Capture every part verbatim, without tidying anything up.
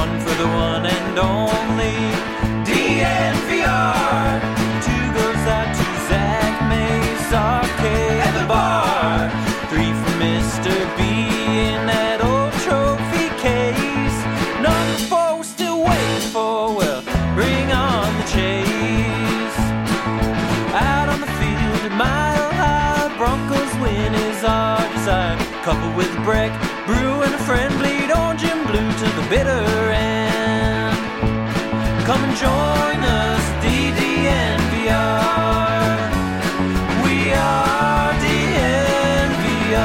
one for the one and only D N V R. Two goes out to Zach Mays, Arcade at the bar. Three for Mister B in that old trophy case. Number four we're still waiting for, well, bring on the chase. Out on the field, a mile high, Broncos win is our desire. Coupled with a break, brew and a friend, bleed orange and blue to the bitter end. Come and join us, D D N V R. We are D N V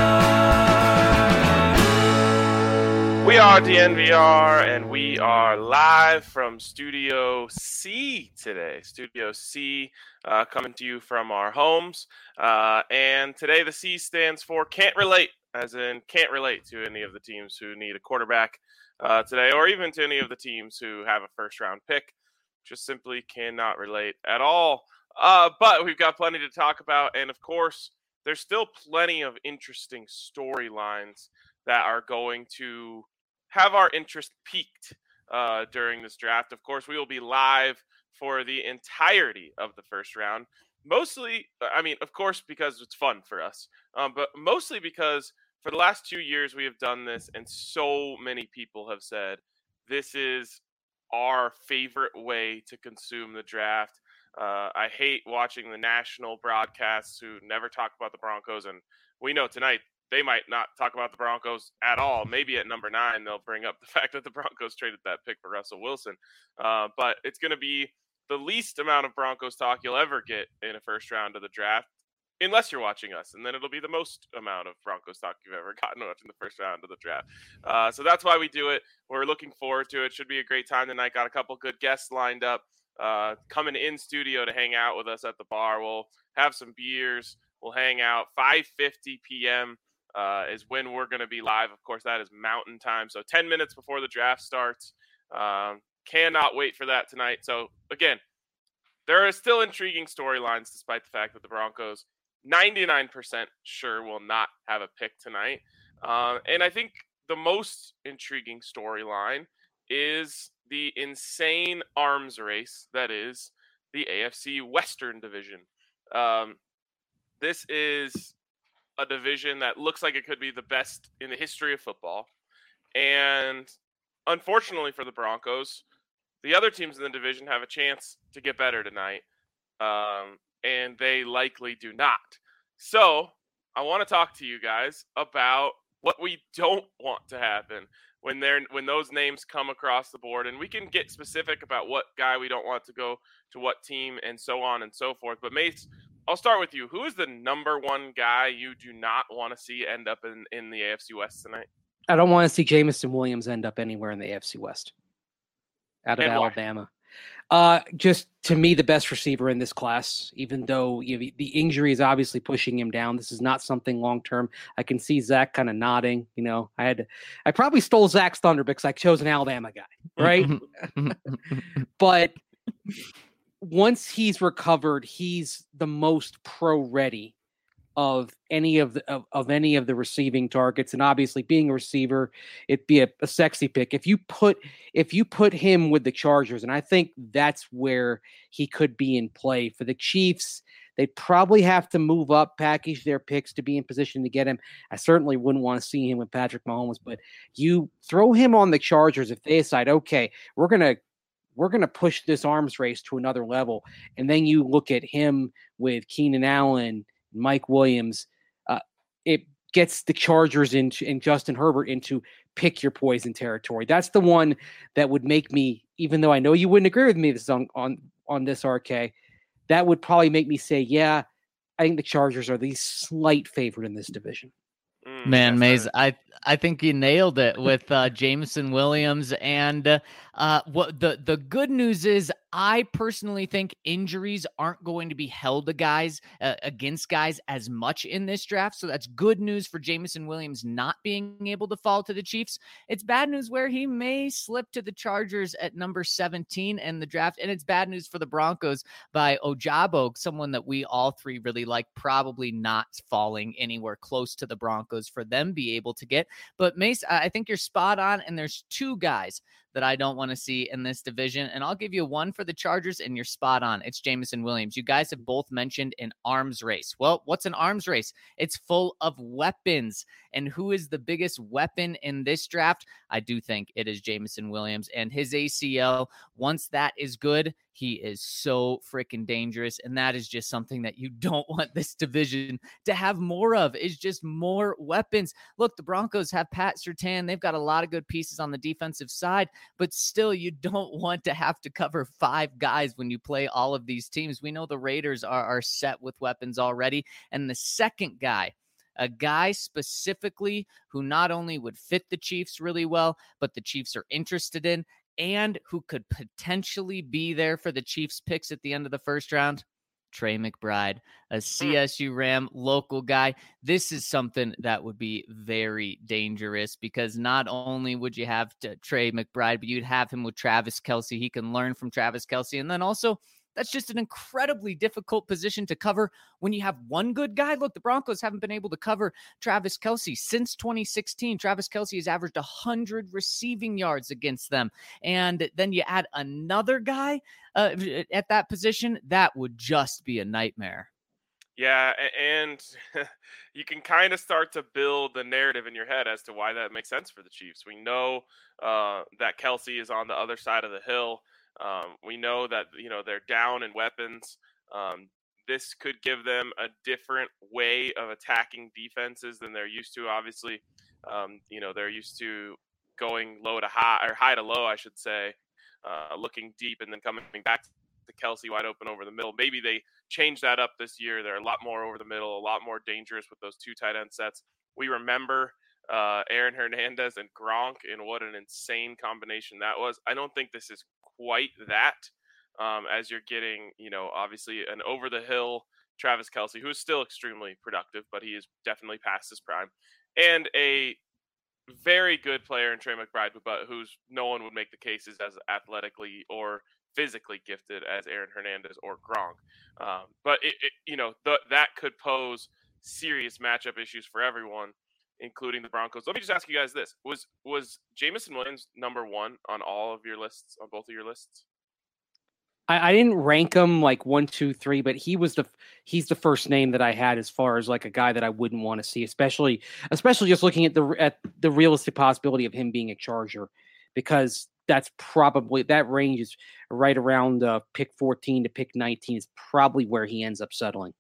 R. We are D N V R, and we are live from Studio C today. Studio C, uh, coming to you from our homes. Uh, and today the C stands for Can't Relate, as in can't relate to any of the teams who need a quarterback uh, today, or even to any of the teams who have a first-round pick. Just simply cannot relate at all. Uh, but we've got plenty to talk about, and of course, there's still plenty of interesting storylines that are going to have our interest piqued uh, during this draft. Of course, we will be live for the entirety of the first round. Mostly, I mean, of course, because it's fun for us, um, but mostly because for the last two years we have done this, and so many people have said this is our favorite way to consume the draft. Uh, I hate watching the national broadcasts who never talk about the Broncos, and we know tonight they might not talk about the Broncos at all. Maybe at number nine, they'll bring up the fact that the Broncos traded that pick for Russell Wilson. Uh, but it's going to be the least amount of Broncos talk you'll ever get in a first round of the draft, unless you're watching us. And then it'll be the most amount of Broncos talk you've ever gotten watching the first round of the draft. Uh, so that's why we do it. We're looking forward to it. Should be a great time tonight. Got a couple good guests lined up uh, coming in studio to hang out with us at the bar. We'll have some beers. We'll hang out. five fifty p.m. Uh, is when we're going to be live. Of course, that is Mountain Time. So ten minutes before the draft starts. Um, cannot wait for that tonight. So again, there are still intriguing storylines despite the fact that the Broncos ninety-nine percent sure will not have a pick tonight. Uh, and I think the most intriguing storyline is the insane arms race that is the A F C Western Division. Um, this is a division that looks like it could be the best in the history of football. And unfortunately for the Broncos, the other teams in the division have a chance to get better tonight. Um, and they likely do not. So I want to talk to you guys about what we don't want to happen when they're when those names come across the board. And we can get specific about what guy we don't want to go to what team and so on and so forth. But Mace, I'll start with you. Who is the number one guy you do not want to see end up in, in the A F C West tonight? I don't want to see Jameson Williams end up anywhere in the A F C West. Out of And Alabama. Uh, just to me, the best receiver in this class, even though you know, the injury is obviously pushing him down. This is not something long-term. I can see Zach kind of nodding. You know, I had, to, I probably stole Zach's thunder because I chose an Alabama guy, right? But once he's recovered, he's the most pro-ready of any of the of, of any of the receiving targets, and obviously being a receiver, it'd be a, a sexy pick. If you put if you put him with the Chargers, and I think that's where he could be in play for the Chiefs. They'd probably have to move up, package their picks to be in position to get him. I certainly wouldn't want to see him with Patrick Mahomes, but you throw him on the Chargers if they decide, okay, we're gonna we're gonna push this arms race to another level, and then you look at him with Keenan Allen, Mike Williams, uh, it gets the Chargers into, and Justin Herbert into pick your poison territory. That's the one that would make me, even though I know you wouldn't agree with me this on, on, on this, R K, that would probably make me say, yeah, I think the Chargers are the slight favorite in this division. Mm, Man, Maze, right. I I think you nailed it with uh, Jameson Williams. And uh, what the, the good news is, I personally think injuries aren't going to be held to guys uh, against guys as much in this draft. So that's good news for Jameson Williams not being able to fall to the Chiefs. It's bad news where he may slip to the Chargers at number seventeen in the draft. And it's bad news for the Broncos by Ojabo, someone that we all three really like, probably not falling anywhere close to the Broncos for them be able to get. But Mace, I think you're spot on. And there's two guys that I don't want to see in this division. And I'll give you one for the Chargers, and you're spot on. It's Jameson Williams. You guys have both mentioned an arms race. Well, what's an arms race? It's full of weapons. And who is the biggest weapon in this draft? I do think it is Jameson Williams, and his A C L. Once that is good, he is so freaking dangerous. And that is just something that you don't want this division to have more of, is just more weapons. Look, the Broncos have Pat Surtain. They've got a lot of good pieces on the defensive side, but still you don't want to have to cover five guys when you play all of these teams. We know the Raiders are, are set with weapons already. And the second guy, a guy specifically who not only would fit the Chiefs really well, but the Chiefs are interested in, and who could potentially be there for the Chiefs picks at the end of the first round, Trey McBride, a C S U Ram local guy. This is something that would be very dangerous, because not only would you have to Trey McBride, but you'd have him with Travis Kelce. He can learn from Travis Kelce. And then also, that's just an incredibly difficult position to cover when you have one good guy. Look, the Broncos haven't been able to cover Travis Kelce since twenty sixteen. Travis Kelce has averaged one hundred receiving yards against them. And then you add another guy uh, at that position, that would just be a nightmare. Yeah, and you can kind of start to build the narrative in your head as to why that makes sense for the Chiefs. We know uh, that Kelce is on the other side of the hill. Um, we know that, you know, they're down in weapons. Um, this could give them a different way of attacking defenses than they're used to. Obviously, um, you know, they're used to going low to high, or high to low, I should say, uh, looking deep and then coming back to Kelce wide open over the middle. Maybe they change that up this year. They're a lot more over the middle, a lot more dangerous with those two tight end sets. We remember uh, Aaron Hernandez and Gronk, and what an insane combination that was. I don't think this is quite that, um, as you're getting, you know, obviously an over the hill Travis Kelce, who is still extremely productive, but he is definitely past his prime, and a very good player in Trey McBride, but who's no one would make the cases as athletically or physically gifted as Aaron Hernandez or Gronk. Um, but it, it, you know, the, that could pose serious matchup issues for everyone, including the Broncos. Let me just ask you guys this. Was was Jameson Williams number one on all of your lists, on both of your lists? I, I didn't rank him like one, two, three, but he was the he's the first name that I had as far as like a guy that I wouldn't want to see, especially especially just looking at the at the realistic possibility of him being a Charger, because that's probably, that range is right around uh, pick fourteen to pick nineteen is probably where he ends up settling.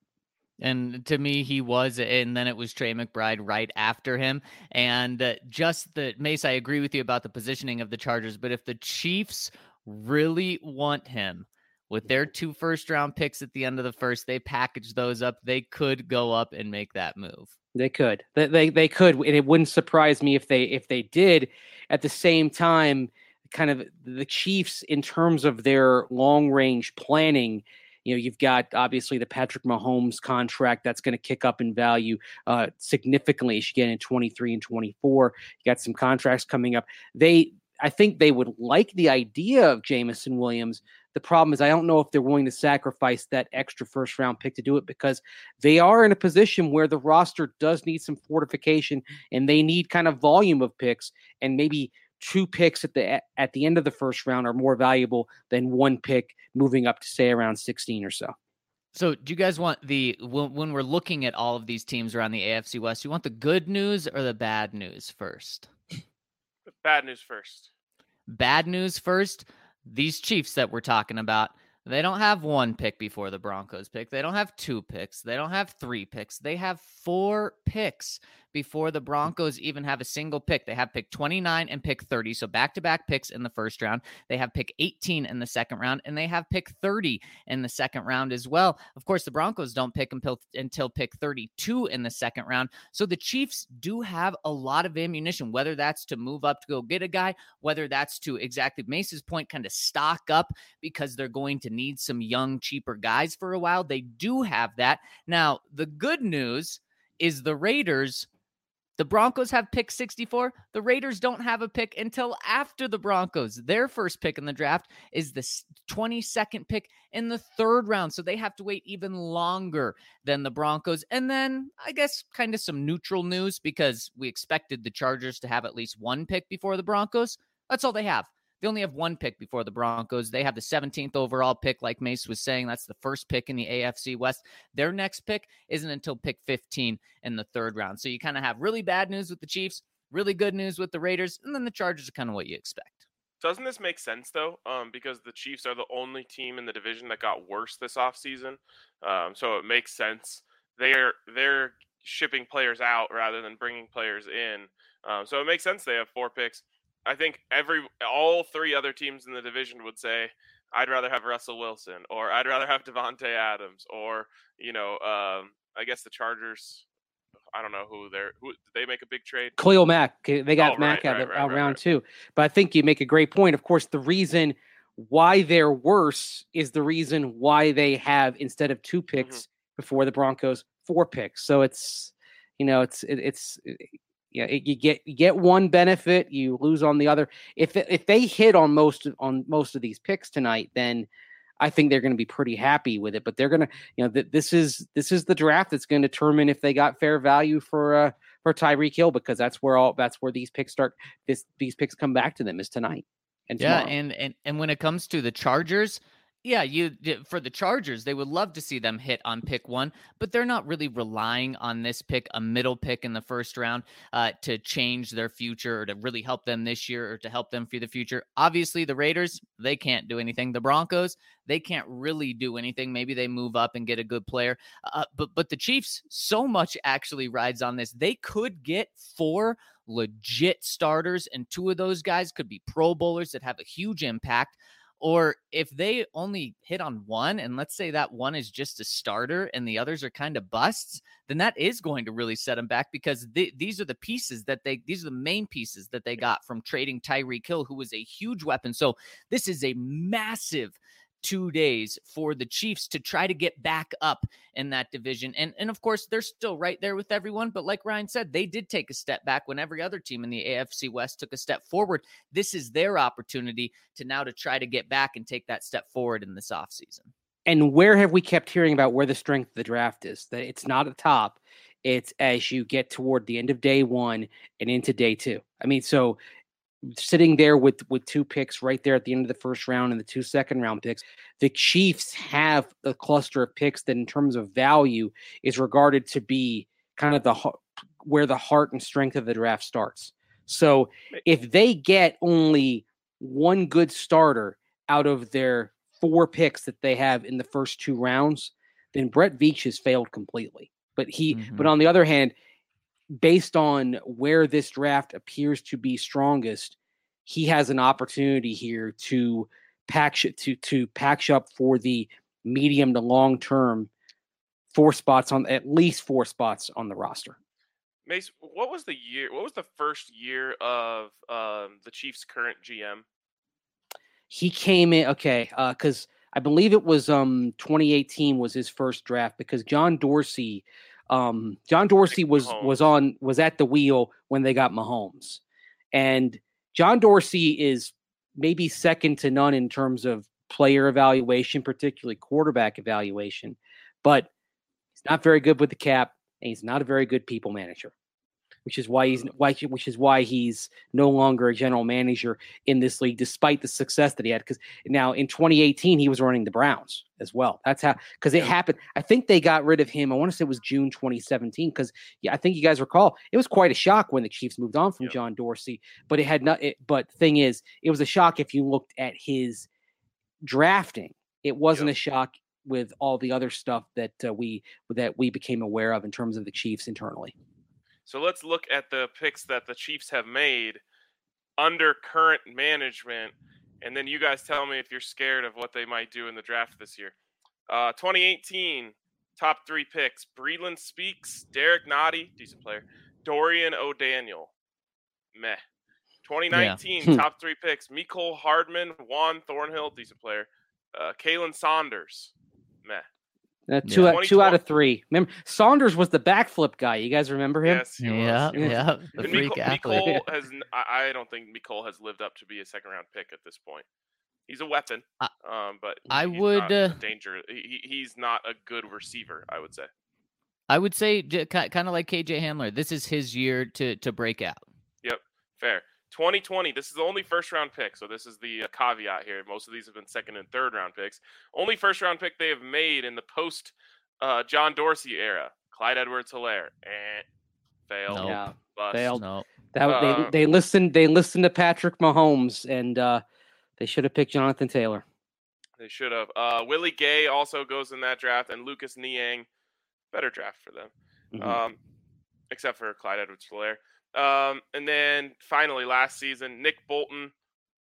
And to me, he was, and then it was Trey McBride right after him. And uh, just the, Mace, I agree with you about the positioning of the Chargers, but if the Chiefs really want him, with their two first-round picks at the end of the first, they package those up, they could go up and make that move. They could. They, they, they could, and it wouldn't surprise me if they if they did. At the same time, kind of the Chiefs, in terms of their long-range planning, you know, you've got obviously the Patrick Mahomes contract that's going to kick up in value uh, significantly as you get in twenty-three and twenty-four. You got some contracts coming up. They, I think they would like the idea of Jameson Williams. The problem is I don't know if they're willing to sacrifice that extra first round pick to do it, because they are in a position where the roster does need some fortification, and they need kind of volume of picks, and maybe two picks at the at the end of the first round are more valuable than one pick moving up to say around sixteen or so. So do you guys want the, when, when we're looking at all of these teams around the A F C West, you want the good news or the bad news first? The bad news first. Bad news first. These Chiefs that we're talking about, they don't have one pick before the Broncos pick. They don't have two picks. They don't have three picks. They have four picks before the Broncos even have a single pick. They have pick twenty-nine and pick thirty, so back-to-back picks in the first round. They have pick eighteen in the second round, and they have pick thirty in the second round as well. Of course, the Broncos don't pick until, until pick thirty-two in the second round, so the Chiefs do have a lot of ammunition, whether that's to move up to go get a guy, whether that's to, exactly Mace's point, kind of stock up because they're going to need some young, cheaper guys for a while. They do have that. Now, the good news is the Raiders, the Broncos have pick sixty-four. The Raiders don't have a pick until after the Broncos. Their first pick in the draft is the twenty-second pick in the third round. So they have to wait even longer than the Broncos. And then I guess kind of some neutral news, because we expected the Chargers to have at least one pick before the Broncos. That's all they have. They only have one pick before the Broncos. They have the seventeenth overall pick, like Mace was saying. That's the first pick in the A F C West. Their next pick isn't until pick fifteen in the third round. So you kind of have really bad news with the Chiefs, really good news with the Raiders, and then the Chargers are kind of what you expect. Doesn't this make sense, though? Um, because the Chiefs are the only team in the division that got worse this offseason. Um, so it makes sense. They're they're shipping players out rather than bringing players in. Um, so it makes sense they have four picks. I think every all three other teams in the division would say, I'd rather have Russell Wilson, or I'd rather have Devontae Adams, or, you know, um, I guess the Chargers, I don't know who they're, who, did they make a big trade? Khalil Mack. They got oh, Mack right, out, right, of, right, out right, round right. two. But I think you make a great point. Of course, the reason why they're worse is the reason why they have, instead of two picks mm-hmm. before the Broncos, four picks. So it's, you know, it's, it, it's, it, yeah, it, you get you get one benefit, you lose on the other. If if they hit on most of, on most of these picks tonight, then I think they're going to be pretty happy with it. But they're going to, you know, th- this is this is the draft that's going to determine if they got fair value for uh, for Tyreek Hill, because that's where all that's where these picks start. This these picks come back to them is tonight and yeah, tomorrow. and and and when it comes to the Chargers. Yeah, you for the Chargers, they would love to see them hit on pick one, but they're not really relying on this pick, a middle pick in the first round, uh, to change their future or to really help them this year or to help them for the future. Obviously, the Raiders, they can't do anything. The Broncos, they can't really do anything. Maybe they move up and get a good player. Uh, but but the Chiefs, so much actually rides on this. They could get four legit starters, and two of those guys could be Pro Bowlers that have a huge impact. Or if they only hit on one, and let's say that one is just a starter and the others are kind of busts, then that is going to really set them back, because th- these are the pieces that they, these are the main pieces that they got from trading Tyreek Hill, who was a huge weapon. So this is a massive two days for the Chiefs to try to get back up in that division. And, and of course, they're still right there with everyone. But like Ryan said, they did take a step back when every other team in the A F C West took a step forward. This is their opportunity to now to try to get back and take that step forward in this offseason. And where have we kept hearing about where the strength of the draft is? That it's not at the top. It's as you get toward the end of day one and into day two. I mean, so sitting there with, with two picks right there at the end of the first round and the two second round picks, the Chiefs have a cluster of picks that in terms of value is regarded to be kind of the where the heart and strength of the draft starts. So if they get only one good starter out of their four picks that they have in the first two rounds, then Brett Veach has failed completely. But he, mm-hmm. but on the other hand, based on where this draft appears to be strongest, he has an opportunity here to patch it to to patch up for the medium to long term four spots on at least four spots on the roster. Mace, what was the year? What was the first year of um, the Chiefs' current G M? He came in okay because uh, I believe it was um twenty eighteen was his first draft, because John Dorsey. Um, John Dorsey was, was on, was at the wheel when they got Mahomes, and John Dorsey is maybe second to none in terms of player evaluation, particularly quarterback evaluation, but he's not very good with the cap, and he's not a very good people manager, which is why he's why, which is why he's no longer a general manager in this league, despite the success that he had. Because now in twenty eighteen, he was running the Browns as well. That's how, because it happened. I think they got rid of him. I want to say it was June twenty seventeen. Because yeah, I think you guys recall it was quite a shock when the Chiefs moved on from yeah. John Dorsey. But it had not. It, but thing is, it was a shock if you looked at his drafting. It wasn't yeah. a shock with all the other stuff that uh, we that we became aware of in terms of the Chiefs internally. So let's look at the picks that the Chiefs have made under current management, and then you guys tell me if you're scared of what they might do in the draft this year. Uh, twenty eighteen, top three picks: Breeland Speaks, Derek Nottie, decent player, Dorian O'Daniel, meh. twenty nineteen, yeah. top three picks: Mecole Hardman, Juan Thornhill, decent player, uh, Kalen Saunders, meh. Uh, two, yeah. out, two out of three. Remember, Saunders was the backflip guy. You guys remember him? Yes, he yeah, was. He was. yeah. The and freak Mecole, athlete. Mecole has. I don't think Mecole has lived up to be a second round pick at this point. He's a weapon, um, but I he's would not uh, a danger. He, he's not a good receiver, I would say. I would say kind of like K J Hamler. This is his year to to break out. Yep, fair. twenty twenty, this is the only first round pick. So this is the uh, caveat here. Most of these have been second and third round picks. Only first round pick they have made in the post uh, John Dorsey era. Clyde Edwards-Helaire. Eh, failed. Nope. Yeah, Bust. failed. No. That Uh, they they listened they listened to Patrick Mahomes, and uh, they should have picked Jonathan Taylor. They should have. Uh, Willie Gay also goes in that draft, and Lucas Niang, better draft for them, Mhm. um, except for Clyde Edwards-Helaire. Um, and then finally, last season, Nick Bolton.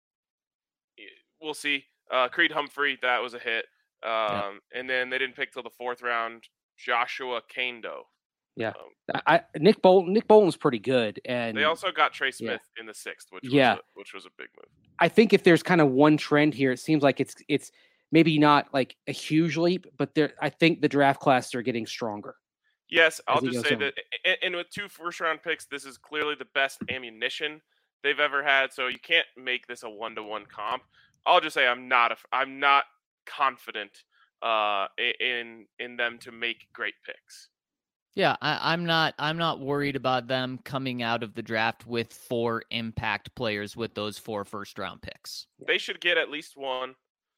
We'll see. Uh, Creed Humphrey, that was a hit. Um, Yeah. And then they didn't pick till the fourth round. Joshua Kando. Yeah. Um, I, I Nick Bolton Nick Bolton's pretty good, and they also got Trey yeah. Smith in the sixth, which Yeah. was a, which was a big move. I think if there's kind of one trend here, it seems like it's it's maybe not like a huge leap, but there I think the draft classes are getting stronger. Yes, I'll as he just goes say on. that, a- and with two first round picks, this is clearly the best ammunition they've ever had. So you can't make this a one to one comp. I'll just say I'm not a, I'm not confident uh, i- in in them to make great picks. Yeah, I, I'm not. I'm not worried about them coming out of the draft with four impact players with those four first round picks. They should get at least one.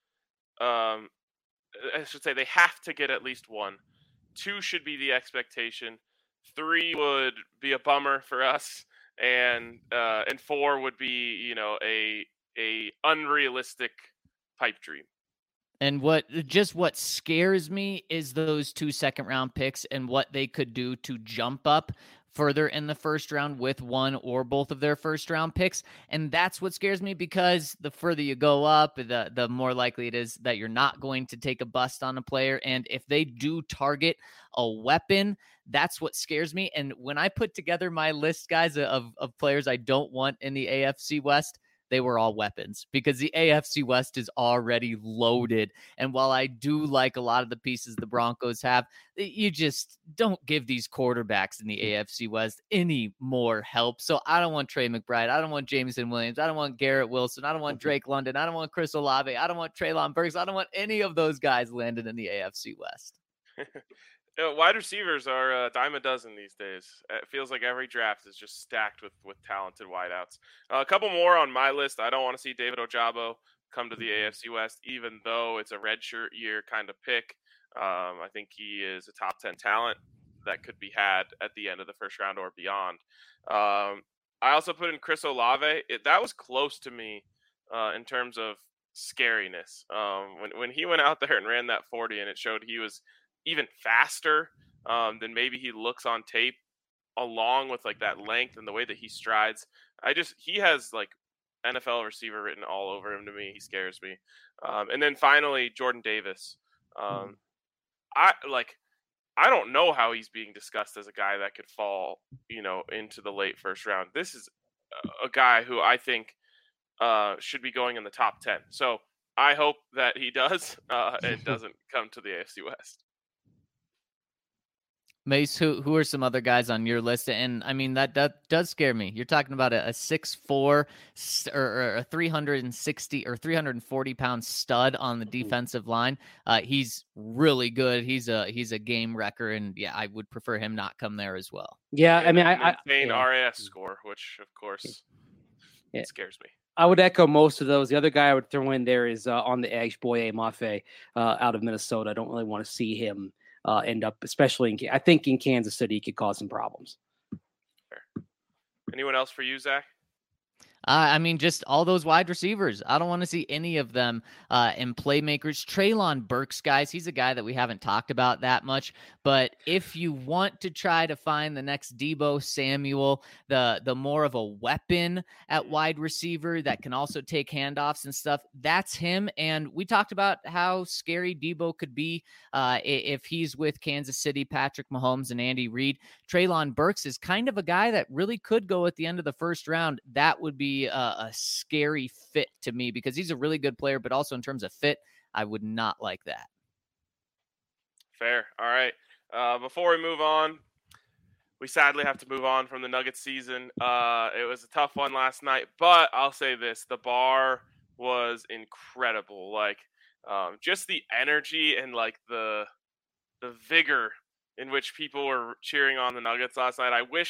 Um, I should say they have to get at least one. Two should be the expectation. Three would be a bummer for us, and uh, and four would be, you know, a a unrealistic pipe dream. And what just what scares me is those two second round picks and what they could do to jump up further in the first round with one or both of their first round picks. And that's what scares me, because the further you go up, the the more likely it is that you're not going to take a bust on a player. And if they do target a weapon, that's what scares me. And when I put together my list, guys, of, of players I don't want in the A F C West, they were all weapons, because the A F C West is already loaded. And while I do like a lot of the pieces the Broncos have, you just don't give these quarterbacks in the A F C West any more help. So I don't want Trey McBride. I don't want Jameson Williams. I don't want Garrett Wilson. I don't want Drake London. I don't want Chris Olave. I don't want Treylon Burks. I don't want any of those guys landing in the A F C West. Uh, wide receivers are a dime a dozen these days. It feels like every draft is just stacked with with talented wideouts. Uh, a couple more on my list. I don't want to see David Ojabo come to the A F C West, even though it's a redshirt year kind of pick. Um, I think he is a top ten talent that could be had at the end of the first round or beyond. Um, I also put in Chris Olave. It, that was close to me uh, in terms of scariness. Um, when when he went out there and ran that forty, and it showed he was even faster um, than maybe he looks on tape, along with like that length and the way that he strides. I just, he has like N F L receiver written all over him to me. He scares me. Um, and then finally, Jordan Davis. Um, I like, I don't know how he's being discussed as a guy that could fall, you know, into the late first round. This is a guy who I think uh, should be going in the top ten. So I hope that he does uh, and doesn't come to the A F C West. Mace, who who are some other guys on your list? And I mean, that that does scare me. You're talking about a, a six four or, or a three hundred sixty or three hundred forty pound stud on the defensive line. Uh, he's really good. He's a he's a game wrecker, and yeah, I would prefer him not come there as well. Yeah, I mean, I, An I insane yeah. R A S score, which of course Yeah. scares me. I would echo most of those. The other guy I would throw in there is uh, on the edge, Boye Mafe uh, out of Minnesota. I don't really want to see him uh, end up, especially in, I think in Kansas City, he could cause some problems. Fair. Anyone else for you, Zach? Uh, I mean, just all those wide receivers. I don't want to see any of them uh, in playmakers. Treylon Burks, guys, he's a guy that we haven't talked about that much. But if you want to try to find the next Deebo Samuel, the the more of a weapon at wide receiver that can also take handoffs and stuff, that's him. And we talked about how scary Deebo could be uh, if he's with Kansas City, Patrick Mahomes, and Andy Reid. Treylon Burks is kind of a guy that really could go at the end of the first round. That would be a, a scary fit to me, because he's a really good player, but also in terms of fit, I would not like that. Fair. All right. Uh, before we move on, we sadly have to move on from the Nuggets season. Uh, it was a tough one last night, but I'll say this: the bar was incredible. Like, um, just the energy and like the the vigor in which people were cheering on the Nuggets last night. I wish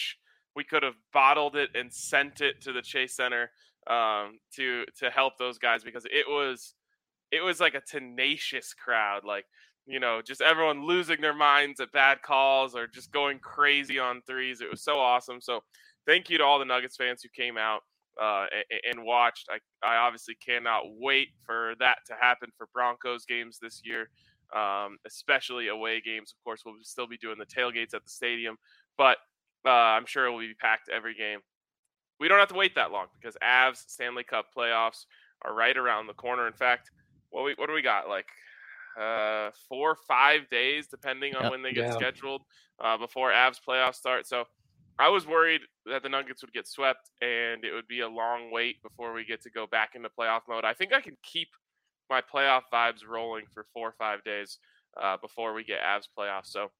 we could have bottled it and sent it to the Chase Center um, to to help those guys, because it was it was like a tenacious crowd, like, you know, just everyone losing their minds at bad calls or just going crazy on threes. It was so awesome. So thank you to all the Nuggets fans who came out uh, and, and watched. I, I obviously cannot wait for that to happen for Broncos games this year, um, especially away games. Of course, we'll still be doing the tailgates at the stadium, but uh, I'm sure it will be packed every game. We don't have to wait that long because Avs Stanley Cup playoffs are right around the corner. In fact, what we what do we got? Like uh, four or five days, depending on Yep. when they get Yeah. scheduled, uh, before Avs playoffs start. So I was worried that the Nuggets would get swept and it would be a long wait before we get to go back into playoff mode. I think I can keep my playoff vibes rolling for four or five days uh, before we get Avs playoffs. So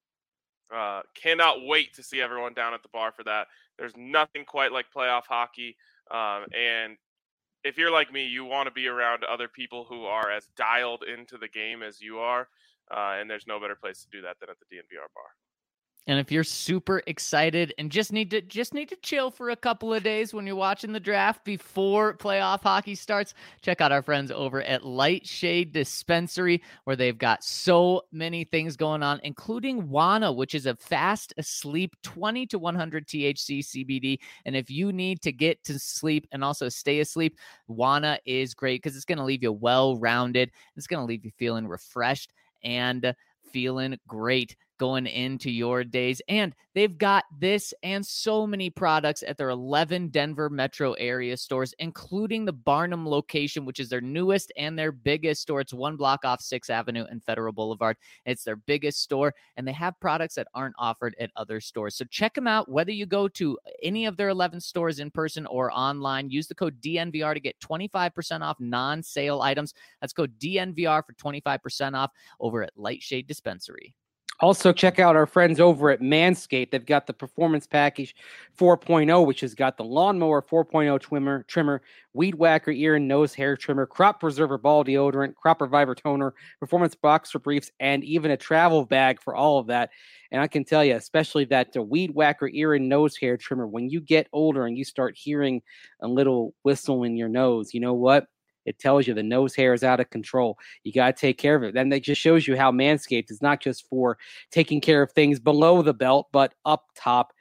uh, cannot wait to see everyone down at the bar for that. There's nothing quite like playoff hockey. Um, and if you're like me, you want to be around other people who are as dialed into the game as you are. Uh, and there's no better place to do that than at the D N V R bar. And if you're super excited and just need to just need to chill for a couple of days when you're watching the draft before playoff hockey starts, check out our friends over at Lightshade Dispensary, where they've got so many things going on, including Wana, which is a fast asleep twenty to one hundred T H C C B D. And if you need to get to sleep and also stay asleep, Wana is great because it's going to leave you well-rounded. It's going to leave you feeling refreshed and feeling great going into your days. And they've got this and so many products at their eleven Denver metro area stores, including the Barnum location, which is their newest and their biggest store. It's one block off sixth Avenue and Federal Boulevard. It's their biggest store, and they have products that aren't offered at other stores. So check them out, whether you go to any of their eleven stores in person or online. Use the code D N V R to get twenty-five percent off non-sale items. That's code D N V R for twenty-five percent off over at Lightshade Dispensary. Also, check out our friends over at Manscaped. They've got the Performance Package four point oh, which has got the Lawnmower four point oh trimmer, trimmer, Weed Whacker ear and nose hair trimmer, Crop Preserver ball deodorant, Crop Reviver toner, Performance Boxer briefs, and even a travel bag for all of that. And I can tell you, especially that uh, Weed Whacker ear and nose hair trimmer, when you get older and you start hearing a little whistle in your nose, you know what? It tells you the nose hair is out of control. You got to take care of it. Then that just shows you how Manscaped is not just for taking care of things below the belt, but up top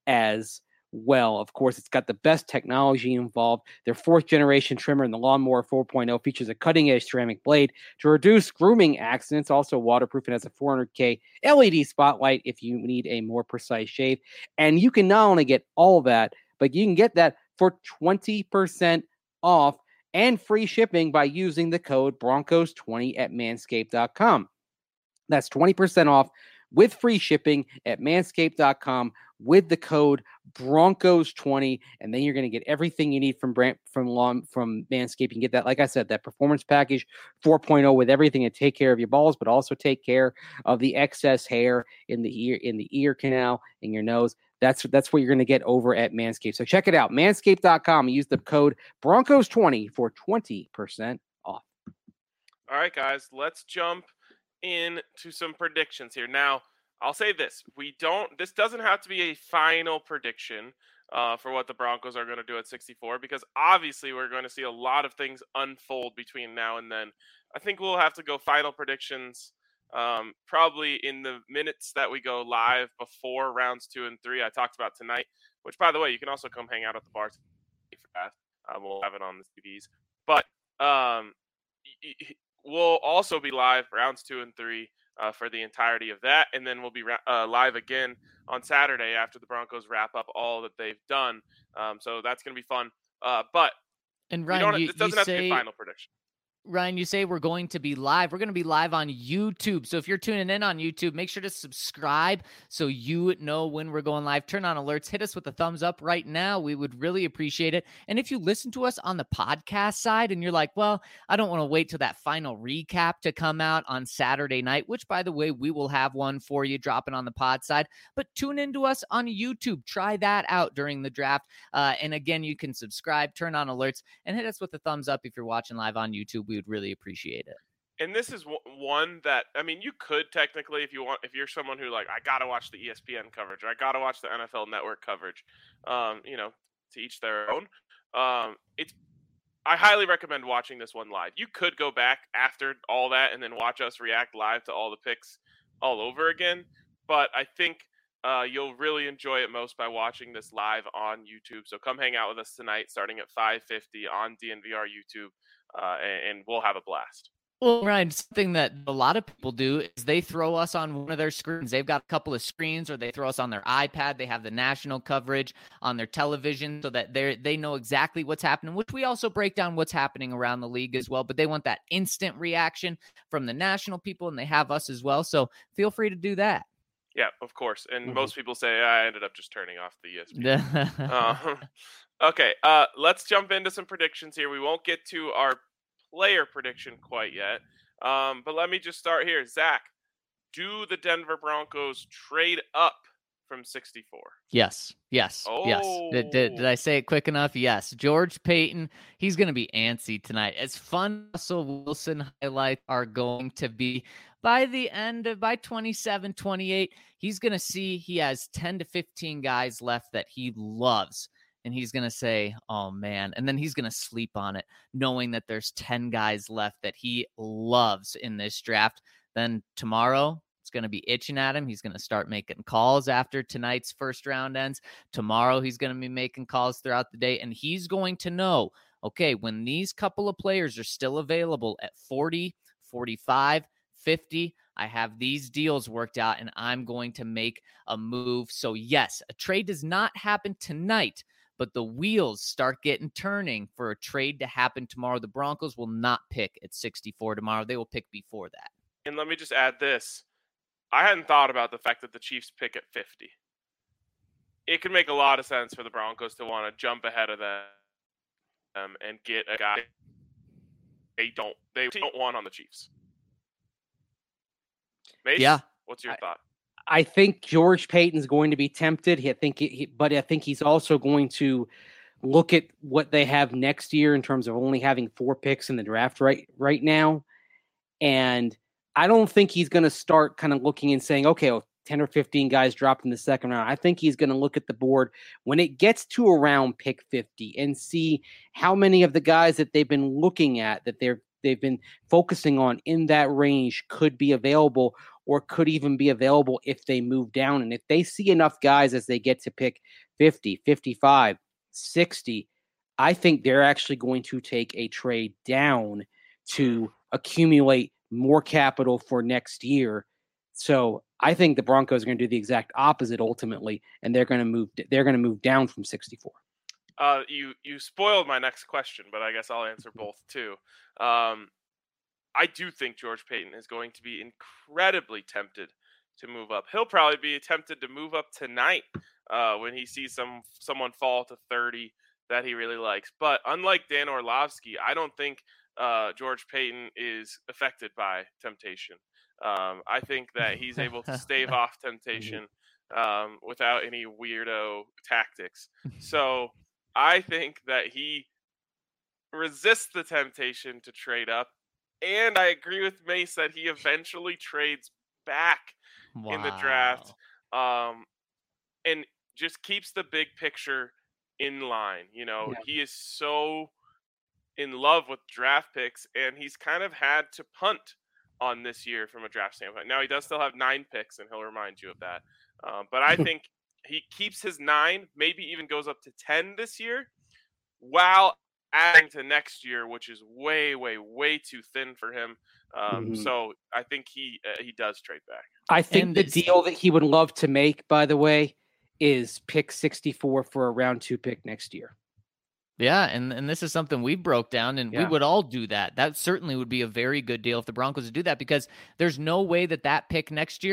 as well. Of course, it's got the best technology involved. Their fourth generation trimmer in the Lawnmower four point oh features a cutting edge ceramic blade to reduce grooming accidents. Also waterproof and has a four hundred K L E D spotlight if you need a more precise shave. And you can not only get all that, but you can get that for twenty percent off and free shipping by using the code Broncos twenty at manscaped dot com. That's twenty percent off with free shipping at manscaped dot com with the code Broncos twenty, and then you're going to get everything you need from brand, from lawn, from Manscaped. You can get that, like I said, that Performance Package four point oh with everything to take care of your balls, but also take care of the excess hair in the ear, in the ear canal, in your nose. That's that's what you're going to get over at Manscaped. So check it out, manscaped dot com. Use the code Broncos twenty for twenty percent off. All right, guys, let's jump into some predictions here. Now, I'll say this. We don't, this doesn't have to be a final prediction uh, for what the Broncos are going to do at sixty-four, because obviously we're going to see a lot of things unfold between now and then. I think we'll have to go final predictions um, probably in the minutes that we go live before rounds two and three. I talked about tonight, which, by the way, you can also come hang out at the bar for that. Uh, we'll have it on the T Vs. But um, we'll also be live rounds two and three uh, for the entirety of that. And then we'll be ra- uh, live again on Saturday after the Broncos wrap up all that they've done. Um, so that's going to be fun. Uh, but and we Ryan, don't, you, it doesn't you have say... to be a final prediction. Ryan, you say we're going to be live. We're going to be live on YouTube. So if you're tuning in on YouTube, make sure to subscribe so you know when we're going live. Turn on alerts. Hit us with a thumbs up right now. We would really appreciate it. And if you listen to us on the podcast side and you're like, well, I don't want to wait till that final recap to come out on Saturday night, which, by the way, we will have one for you dropping on the pod side. But tune into us on YouTube. Try that out during the draft. Uh, and again, you can subscribe, turn on alerts, and hit us with a thumbs up if you're watching live on YouTube. We would really appreciate it. And this is w- one that, I mean, you could technically, if you want, if you're someone who like, I gotta watch the E S P N coverage, or I gotta watch the N F L Network coverage. Um, you know, to each their own. Um, it's I highly recommend watching this one live. You could go back after all that and then watch us react live to all the picks all over again. But I think uh, you'll really enjoy it most by watching this live on YouTube. So come hang out with us tonight, starting at five fifty on D N V R YouTube, uh, and, and we'll have a blast. Well, Ryan, something that a lot of people do is they throw us on one of their screens. They've got a couple of screens, or they throw us on their iPad. They have the national coverage on their television so that they they know exactly what's happening, which we also break down what's happening around the league as well. But they want that instant reaction from the national people, and they have us as well. So feel free to do that. Yeah, of course. And Mhm. most people say, I ended up just turning off the E S P N. uh, okay, uh, let's jump into some predictions here. We won't get to our player prediction quite yet. Um, but let me just start here. Zach, do the Denver Broncos trade up from sixty-four? Yes, yes, oh. yes. Did, did, did I say it quick enough? Yes. George Payton, he's going to be antsy tonight. As fun Russell Wilson highlights are going to be, by the end of, by twenty-seven, twenty-eight, he's going to see he has ten to fifteen guys left that he loves. And he's going to say, oh, man. And then he's going to sleep on it, knowing that there's ten guys left that he loves in this draft. Then tomorrow, it's going to be itching at him. He's going to start making calls after tonight's first round ends. Tomorrow, he's going to be making calls throughout the day. And he's going to know, okay, when these couple of players are still available at forty, forty-five, fifty, I have these deals worked out, and I'm going to make a move. So, yes, a trade does not happen tonight, but the wheels start getting turning for a trade to happen tomorrow. The Broncos will not pick at sixty-four tomorrow. They will pick before that. And let me just add this. I hadn't thought about the fact that the Chiefs pick at fifty. It could make a lot of sense for the Broncos to want to jump ahead of them and get a guy they don't they don't want on the Chiefs. Mace, yeah. What's your I, thought? I think George Payton's going to be tempted. I think, he, but I think he's also going to look at what they have next year in terms of only having four picks in the draft right right now, and I don't think he's going to start kind of looking and saying, okay, well, ten or fifteen guys dropped in the second round. I think he's going to look at the board when it gets to around pick fifty and see how many of the guys that they've been looking at, that they're they've been focusing on in that range could be available, or could even be available if they move down. And if they see enough guys as they get to pick fifty, fifty-five, sixty, I think they're actually going to take a trade down to accumulate more capital for next year. So I think the Broncos are going to do the exact opposite ultimately, and they're going to move. They're going to move down from sixty-four. Uh, you you spoiled my next question, but I guess I'll answer both too. Um, I do think George Payton is going to be incredibly tempted to move up. He'll probably be tempted to move up tonight uh, when he sees some someone fall to thirty that he really likes. But unlike Dan Orlovsky, I don't think uh, George Payton is affected by temptation. Um, I think that he's able to stave off temptation um, without any weirdo tactics. So I think that he resists the temptation to trade up. And I agree with Mace that he eventually trades back wow. in the draft um, and just keeps the big picture in line. You know, yeah. he is so in love with draft picks, and he's kind of had to punt on this year from a draft standpoint. Now, he does still have nine picks, and he'll remind you of that. Um, but I think he keeps his nine, maybe even goes up to ten this year, while adding to next year, which is way, way, way too thin for him. Um, mm-hmm. So I think he uh, he does trade back. I think and the deal that he would love to make, by the way, is pick sixty-four for a round two pick next year. Yeah, and, and this is something we broke down, and yeah. we would all do that. That certainly would be a very good deal if the Broncos would do that, because there's no way that that pick next year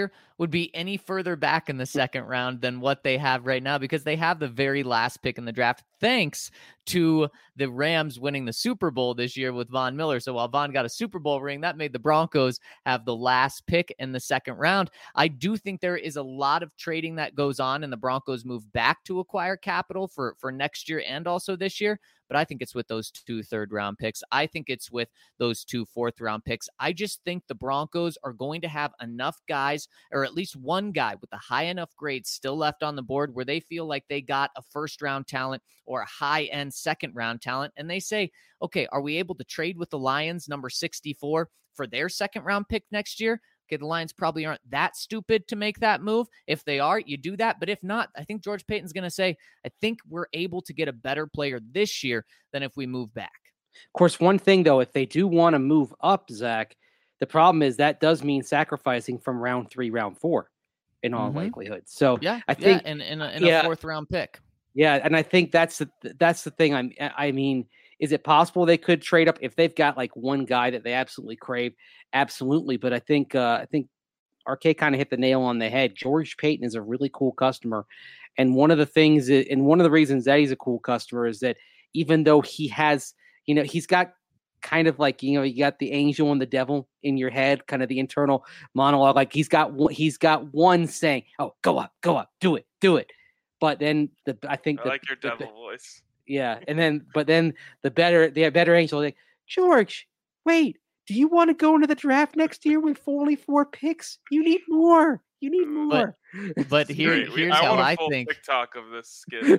would be any further back in the second round than what they have right now, because they have the very last pick in the draft, thanks to the Rams winning the Super Bowl this year with Von Miller. So while Von got a Super Bowl ring, that made the Broncos have the last pick in the second round. I do think there is a lot of trading that goes on, and the Broncos move back to acquire capital for, for next year and also this year. But I think it's with those two third round picks. I think it's with those two fourth round picks. I just think the Broncos are going to have enough guys, or at least one guy with a high enough grade still left on the board where they feel like they got a first round talent or a high end second round talent. And they say, okay, are we able to trade with the Lions, number sixty-four, for their second round pick next year? Okay, the Lions probably aren't that stupid to make that move. If they are, you do that. But if not, I think George Paton's going to say, I think we're able to get a better player this year than if we move back. Of course, one thing, though, if they do want to move up, Zach, the problem is that does mean sacrificing from round three, round four, in all mm-hmm. likelihood. So yeah, I think yeah, and in, in, a, in yeah, a fourth round pick. Yeah, and I think that's the that's the thing. I'm I mean, is it possible they could trade up if they've got like one guy that they absolutely crave? Absolutely, but I think uh, I think R K kind of hit the nail on the head. George Paton is a really cool customer, and one of the things, and one of the reasons that he's a cool customer is that even though he has, you know, he's got kind of like, you know, you got the angel and the devil in your head, kind of the internal monologue. Like he's got he's got one saying, "Oh, go up, go up, do it, do it." But then the I think I the, like your the, devil the, voice. Yeah, and then but then the better the better angel like, George, wait, do you want to go into the draft next year with only four picks? You need more. You need more. But, but here, Great. here's I how want a I full think. TikTok of this skit.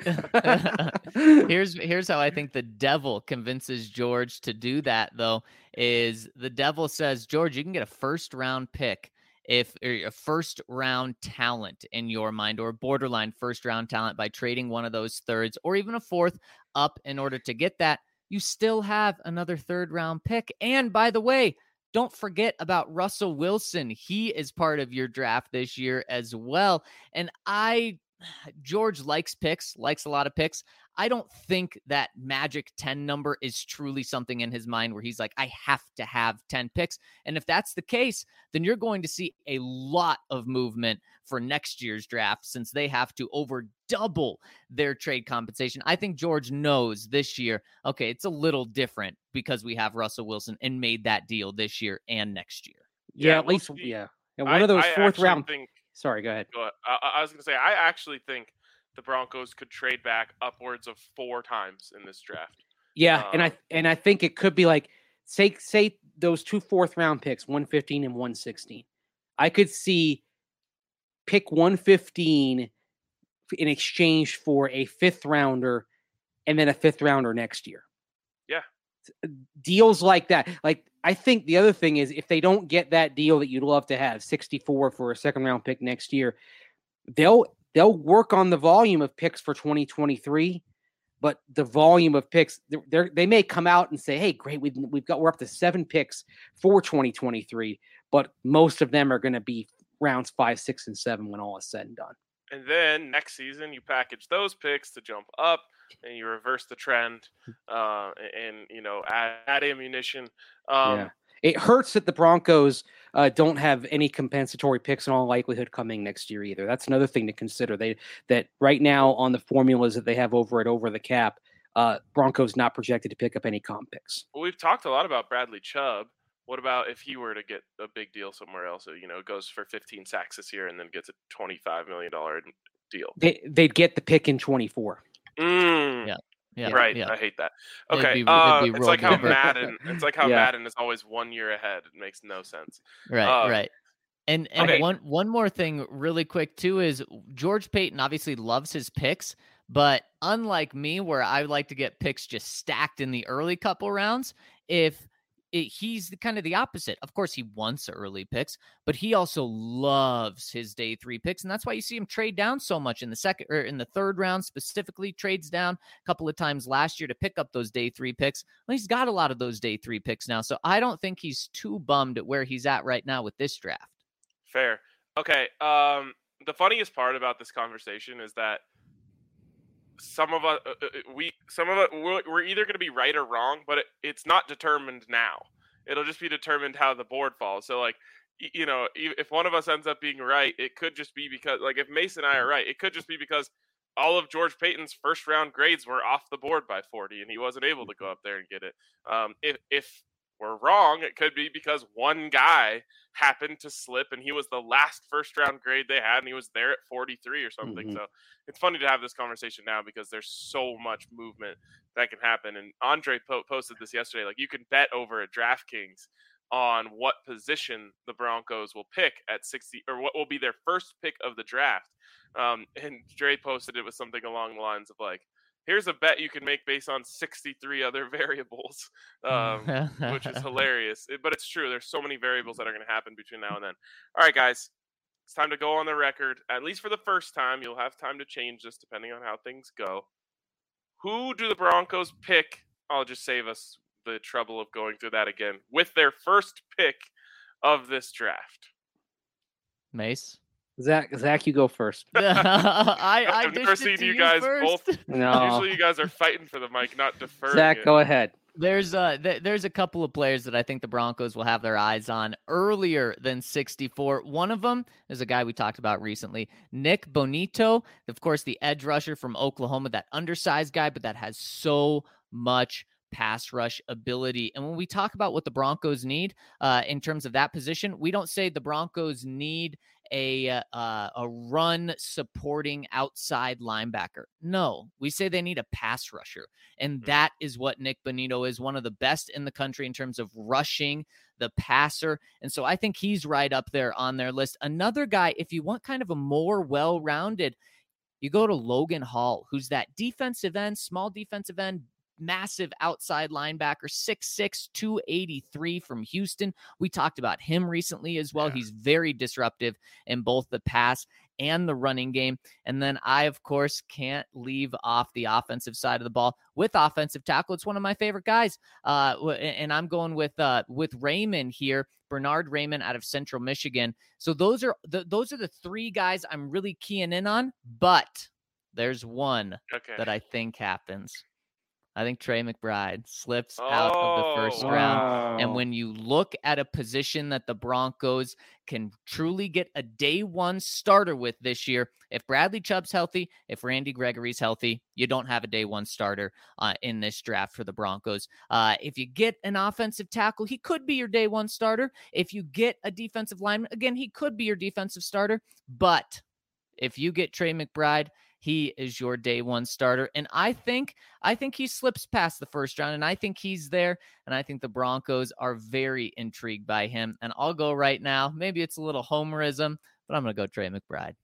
here's here's how I think the devil convinces George to do that. Though, is the devil says, George, you can get a first round pick if a first round talent in your mind, or borderline first round talent, by trading one of those thirds or even a fourth up in order to get that. You still have another third round pick. And by the way, don't forget about Russell Wilson. He is part of your draft this year as well. And I, George likes picks, likes a lot of picks. I don't think that magic ten number is truly something in his mind where he's like, I have to have ten picks. And if that's the case, then you're going to see a lot of movement for next year's draft, since they have to over double their trade compensation. I think George knows this year, okay, it's a little different because we have Russell Wilson and made that deal this year and next year. Yeah, Yeah, at we'll least, see. yeah. And one I, of those I fourth actually round. Think, Sorry, go ahead. go ahead. I, I was going to say, I actually think the Broncos could trade back upwards of four times in this draft. Yeah, um, and I and I think it could be like, say say those two fourth round picks, one fifteen and one sixteen. I could see pick one fifteen in exchange for a fifth rounder and then a fifth rounder next year. Yeah. Deals like that. Like, I think the other thing is, if they don't get that deal that you'd love to have, sixty-four for a second round pick next year, they'll they'll work on the volume of picks for twenty twenty-three, but the volume of picks, they they may come out and say, hey, great, we've, we've got, we're up to seven picks for twenty twenty-three, but most of them are going to be rounds five, six, and seven when all is said and done. And then next season, you package those picks to jump up, and you reverse the trend, uh, and, you know, add, add ammunition. Um, yeah. It hurts that the Broncos uh, don't have any compensatory picks in all likelihood coming next year either. That's another thing to consider. They that right now on the formulas that they have over it over the cap, uh, Broncos not projected to pick up any comp picks. Well, we've talked a lot about Bradley Chubb. What about if he were to get a big deal somewhere else? You know, goes for fifteen sacks this year and then gets a twenty-five million dollars deal. They they'd get the pick in twenty-four. Mm. Yeah. Yeah, right. yeah. I hate that. Okay. It'd be, uh, it'd be it's like how over. Madden. It's like how Yeah. Madden is always one year ahead. It makes no sense. Right. Uh, right. And and okay. one one more thing really quick too is George Paton obviously loves his picks, but unlike me, where I like to get picks just stacked in the early couple rounds, if it, he's the, kind of the opposite. Of course, he wants early picks, but he also loves his day three picks, and that's why you see him trade down so much in the second or in the third round. Specifically, trades down a couple of times last year to pick up those day three picks. Well, he's got a lot of those day three picks now, so I don't think he's too bummed at where he's at right now with this draft. Fair. Okay. Um, the funniest part about this conversation is that some of us, uh, we, some of us, we're, we're either going to be right or wrong, but it, it's not determined now. It'll just be determined how the board falls. So, like, you know, if one of us ends up being right, it could just be because, like, if Mason and I are right, it could just be because all of George Payton's first round grades were off the board by forty, and he wasn't able to go up there and get it. Um, if if we're wrong, it could be because one guy happened to slip, and he was the last first round grade they had, and he was there at forty-three or something. Mm-hmm. So it's funny to have this conversation now because there's so much movement that can happen. And Andre po- posted this yesterday. Like, you can bet over at DraftKings on what position the Broncos will pick at sixty, or what will be their first pick of the draft. Um, and Dre posted it with something along the lines of like, here's a bet you can make based on sixty-three other variables, um, which is hilarious. It, but it's true. There's so many variables that are going to happen between now and then. All right, guys, it's time to go on the record. At least for the first time, you'll have time to change this depending on how things go. Who do the Broncos pick? I'll just save us the trouble of going through that again. With their first pick of this draft. Mace? Zach, Zach, you go first. I, I I've never seen you, you guys first. both. No. Usually you guys are fighting for the mic, not deferring Zach, it. go ahead. There's uh th- there's a couple of players that I think the Broncos will have their eyes on earlier than sixty-four. One of them is a guy we talked about recently, Nick Bonito, of course, the edge rusher from Oklahoma, that undersized guy, but that has so much pass rush ability. And when we talk about what the Broncos need uh, in terms of that position, we don't say the Broncos need a uh, a run supporting outside linebacker. No, we say they need a pass rusher. And that is what Nick Bonito is, one of the best in the country in terms of rushing the passer. And so I think he's right up there on their list. Another guy, if you want kind of a more well-rounded, you go to Logan Hall, who's that defensive end, small defensive end, massive outside linebacker, six six, two eighty-three from Houston. We talked about him recently as well. Yeah. He's very disruptive in both the pass and the running game. And then I, of course, can't leave off the offensive side of the ball with offensive tackle. It's one of my favorite guys. Uh, and I'm going with uh, with Raymond here, Bernard Raymond out of Central Michigan. So those are the, those are the three guys I'm really keying in on. But there's one okay. that I think happens. I think Trey McBride slips oh, out of the first wow. round. And when you look at a position that the Broncos can truly get a day one starter with this year, if Bradley Chubb's healthy, if Randy Gregory's healthy, you don't have a day one starter uh, in this draft for the Broncos. Uh, if you get an offensive tackle, he could be your day one starter. If you get a defensive lineman, again, he could be your defensive starter. But if you get Trey McBride, he is your day one starter. And I think, I think he slips past the first round, and I think he's there. And I think the Broncos are very intrigued by him. And I'll go right now. Maybe it's a little homerism, but I'm going to go Trey McBride.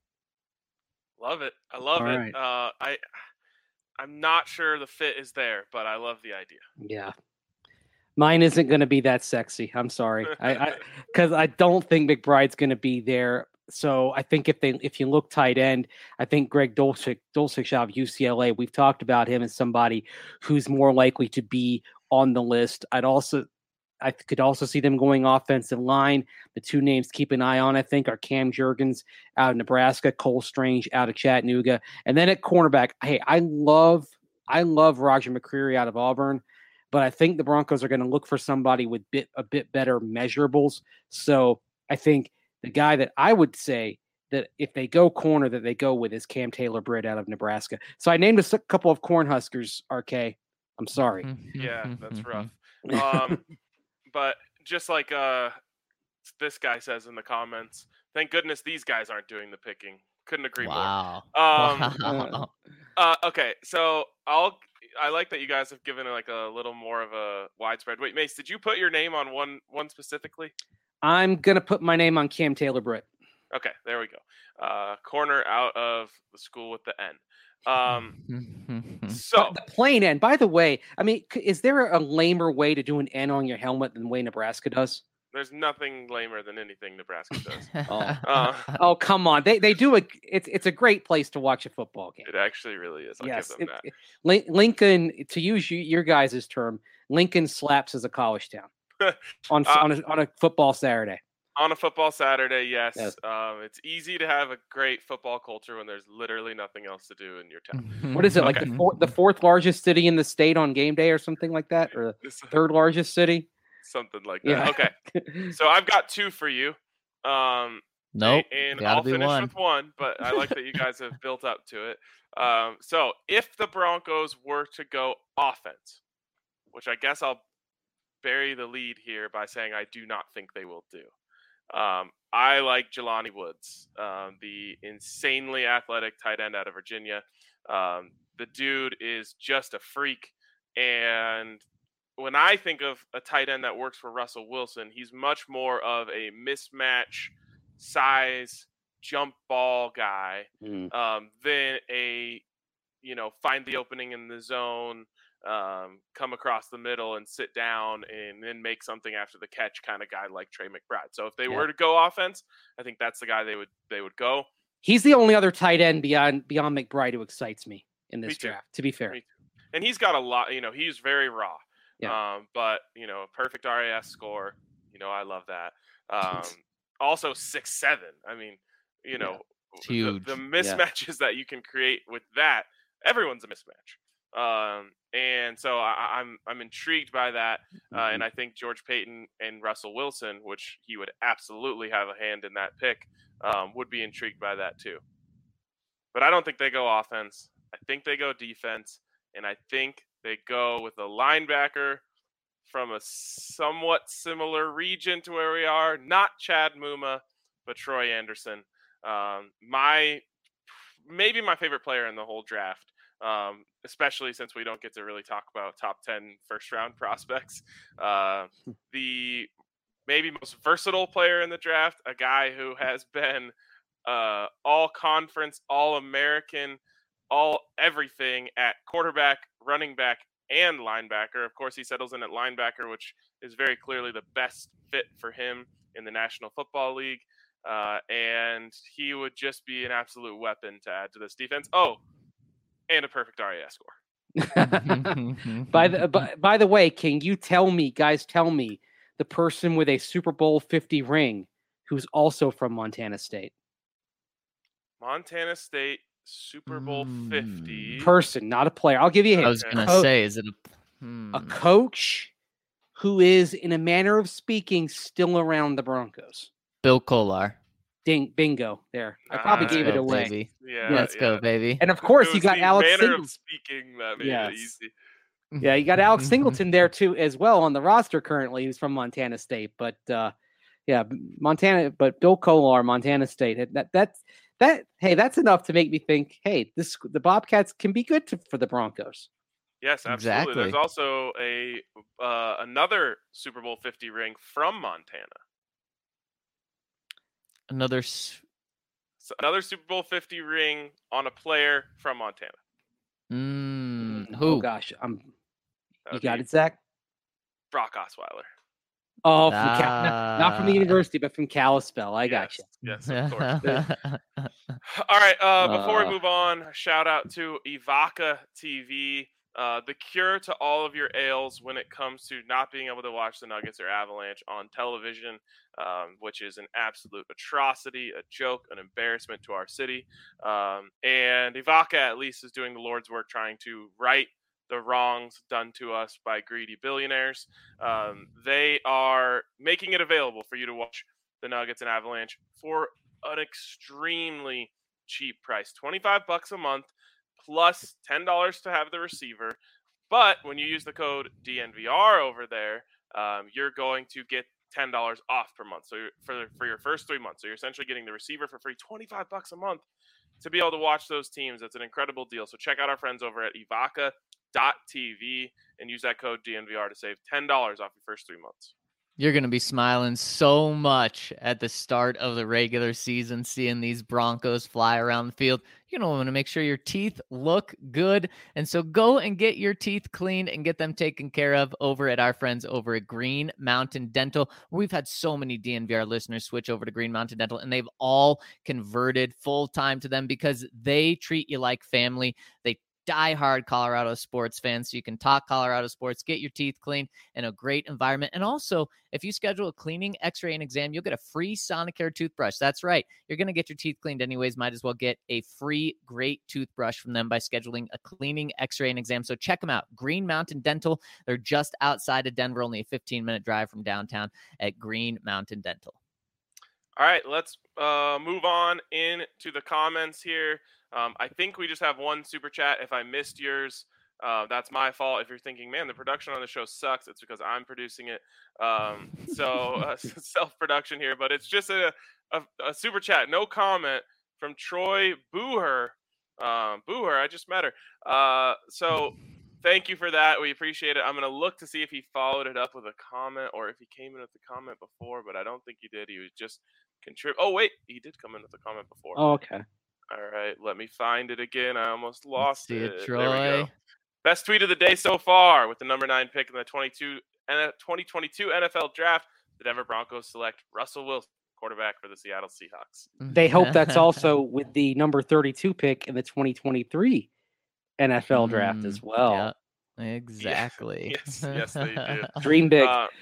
Love it. I love All it. right. Uh, I, I'm not sure the fit is there, but I love the idea. Yeah. Mine isn't going to be that sexy. I'm sorry. I, I, cause I don't think McBride's going to be there. So I think if they if you look tight end, I think Greg Dulcich, Dulcich out of U C L A, we've talked about him as somebody who's more likely to be on the list. I'd also I could also see them going offensive line. The two names to keep an eye on, I think, are Cam Jurgens out of Nebraska, Cole Strange out of Chattanooga. And then at cornerback, hey, I love I love Roger McCreary out of Auburn, but I think the Broncos are going to look for somebody with bit a bit better measurables. So I think the guy that I would say that if they go corner that they go with is Cam Taylor-Britt out of Nebraska. So I named a couple of Cornhuskers, R K. I'm sorry. Yeah, that's rough. Um, but just like uh, this guy says in the comments, thank goodness these guys aren't doing the picking. Couldn't agree wow. more. Um, wow. Uh, okay, so I'll. I like that you guys have given it like a little more of a widespread. Wait, Mace, did you put your name on one one specifically? I'm going to put my name on Cam Taylor-Britt. Okay, there we go. Uh, corner out of the school with the N. Um, so but the plain N, by the way, I mean, is there a lamer way to do an N on your helmet than the way Nebraska does? There's nothing lamer than anything Nebraska does. oh. Uh, oh, come on. They they do a it's it's a great place to watch a football game. It actually really is. I'll yes, give them it, that. It, Lincoln, to use you, your guys' term, Lincoln slaps as a college town. on uh, on, a, on a football Saturday. On a football Saturday, yes. yes. Um, it's easy to have a great football culture when there's literally nothing else to do in your town. What is it, okay. like the, four, the fourth largest city in the state on game day or something like that? Or the third largest city? Something like that. Yeah. Okay. So I've got two for you. Um, Nope. And, and gotta I'll be finish one. with one, but I like that you guys have built up to it. Um, so if the Broncos were to go offense, which I guess I'll bury the lead here by saying I do not think they will do. Um, I like Jelani Woods, um, the insanely athletic tight end out of Virginia. Um, the dude is just a freak. And when I think of a tight end that works for Russell Wilson, he's much more of a mismatch size jump ball guy Mm. um, than a, you know, find the opening in the zone, um, come across the middle and sit down and then make something after the catch kind of guy like Trey McBride. So if they Yeah. were to go offense, I think that's the guy they would they would go. He's the only other tight end beyond beyond McBride who excites me in this Me too. draft, to be fair. Me too. And he's got a lot, you know, he's very raw. Yeah. Um, but, you know, perfect R A S score. You know, I love that. Um, also six seven. I mean, you know, It's the, huge. the mismatches that you can create with that, everyone's a mismatch. Um, and so I, I'm I'm intrigued by that. Uh, Mhm. and I think George Payton and Russell Wilson, which he would absolutely have a hand in that pick, um, would be intrigued by that too. But I don't think they go offense. I think they go defense. And I think they go with a linebacker from a somewhat similar region to where we are. Not Chad Muma, but Troy Anderson. Um, my maybe my favorite player in the whole draft, um, especially since we don't get to really talk about top ten first round prospects. Uh, the maybe most versatile player in the draft, a guy who has been uh, all conference, all American, all everything at quarterback, running back, and linebacker. Of course, he settles in at linebacker, which is very clearly the best fit for him in the National Football League. Uh, and he would just be an absolute weapon to add to this defense. Oh, and a perfect R A S score. by the by, by the way, can you tell me, guys, tell me the person with a Super Bowl fifty ring who's also from Montana State? Montana State Super Bowl Mm. fifty. Person, not a player. I'll give you a hint. I was Okay. gonna Co- say, is it a hmm. a coach who is, in a manner of speaking, still around the Broncos? Bill Kolar? Ding, bingo. There, I probably Nice. gave it Go, away. baby. Yeah, Let's yeah. go, baby. And of course, It you was got the Alex manner Singleton. of speaking that made Yes. it easy. Yeah, you got Alex Singleton there too, as well, on the roster currently, who's from Montana State. But uh, yeah, Montana. But Bill Kolar, Montana State. That that's that. Hey, that's enough to make me think. Hey, this the Bobcats can be good to, for the Broncos. Yes, absolutely. There's Exactly. also a uh, another Super Bowl fifty ring from Montana. Another. s- So another Super Bowl fifty ring on a player from Montana. Mm, Oh who? gosh, I'm. That You would got be it, Zach. Brock Osweiler. Oh, from Cal- not, not from the Ah. university, but from Kalispell. I got you. Yes, yes, of course. All right. Uh, before Uh. we move on, shout out to Evoca T V, uh, the cure to all of your ails when it comes to not being able to watch the Nuggets or Avalanche on television, um, which is an absolute atrocity, a joke, an embarrassment to our city. Um, and Evoca at least is doing the Lord's work, trying to right the wrongs done to us by greedy billionaires. Um, they are making it available for you to watch the Nuggets and Avalanche for an extremely cheap price, twenty-five bucks a month plus ten dollars to have the receiver. But when you use the code D N V R over there, um, you're going to get ten dollars off per month. So you're, for for your first three months, so you're essentially getting the receiver for free, twenty-five bucks a month to be able to watch those teams. That's an incredible deal. So check out our friends over at evoca dot t v and use that code D N V R to save ten dollars off your first three months. You're going to be smiling so much at the start of the regular season, seeing these Broncos fly around the field. You're going to want to make sure your teeth look good. And so go and get your teeth cleaned and get them taken care of over at our friends over at Green Mountain Dental. We've had so many D N V R listeners switch over to Green Mountain Dental, and they've all converted full time to them because they treat you like family. They diehard Colorado sports fans, so you can talk Colorado sports, get your teeth cleaned in a great environment. And also, if you schedule a cleaning, x-ray, and exam, you'll get a free Sonicare toothbrush. That's right. You're going to get your teeth cleaned anyways. Might as well get a free, great toothbrush from them by scheduling a cleaning, x-ray, and exam. So check them out. Green Mountain Dental. They're just outside of Denver, only a fifteen-minute drive from downtown at Green Mountain Dental. All right, let's uh, move on into the comments here. Um, I think we just have one super chat. If I missed yours, uh, that's my fault. If you're thinking, man, the production on the show sucks, it's because I'm producing it. Um, so uh, self-production here, but it's just a, a, a super chat. No comment from Troy Booher. Um, Booher, I just met her. Uh, so thank you for that. We appreciate it. I'm going to look to see if he followed it up with a comment or if he came in with a comment before, but I don't think he did. He was just contrib. Oh, wait, he did come in with a comment before. Oh, okay. All right, let me find it again. I almost lost see it. it, Troy. There we go. Best tweet of the day so far with the number nine pick in the twenty-two twenty twenty-two N F L Draft. The Denver Broncos select Russell Wilson, quarterback for the Seattle Seahawks. They hope that's also with the number thirty-two pick in the twenty twenty-three N F L Draft as well. Yeah. Exactly. Yes, yes, they did. Dream big. Uh,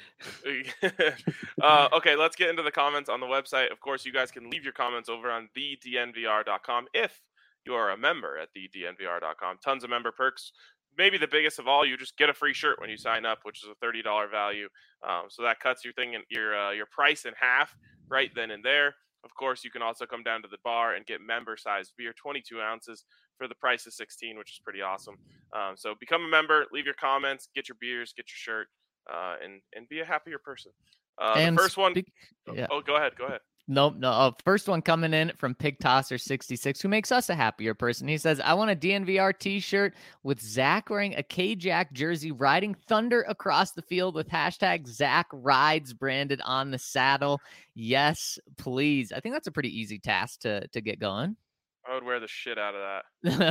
uh, okay, let's get into the comments on the website. Of course, you guys can leave your comments over on the D N V R dot com if you are a member at the D N V R dot com. Tons of member perks. Maybe the biggest of all, you just get a free shirt when you sign up, which is a thirty dollars value. Um, so that cuts your thing in, your uh, your price in half right then and there. Of course, you can also come down to the bar and get member-sized beer, twenty-two ounces, for the price of sixteen, which is pretty awesome. Um, so become a member, leave your comments, get your beers, get your shirt, uh, and and be a happier person. Uh, and the first one. Speak, yeah. Oh, go ahead. Go ahead. Nope, no. Uh, first one coming in from Pig Tosser sixty-six, who makes us a happier person. He says, I want a D N V R t-shirt with Zach wearing a K-Jack jersey, riding thunder across the field with hashtag Zach Rides branded on the saddle. Yes, please. I think that's a pretty easy task to, to get going. I would wear the shit out of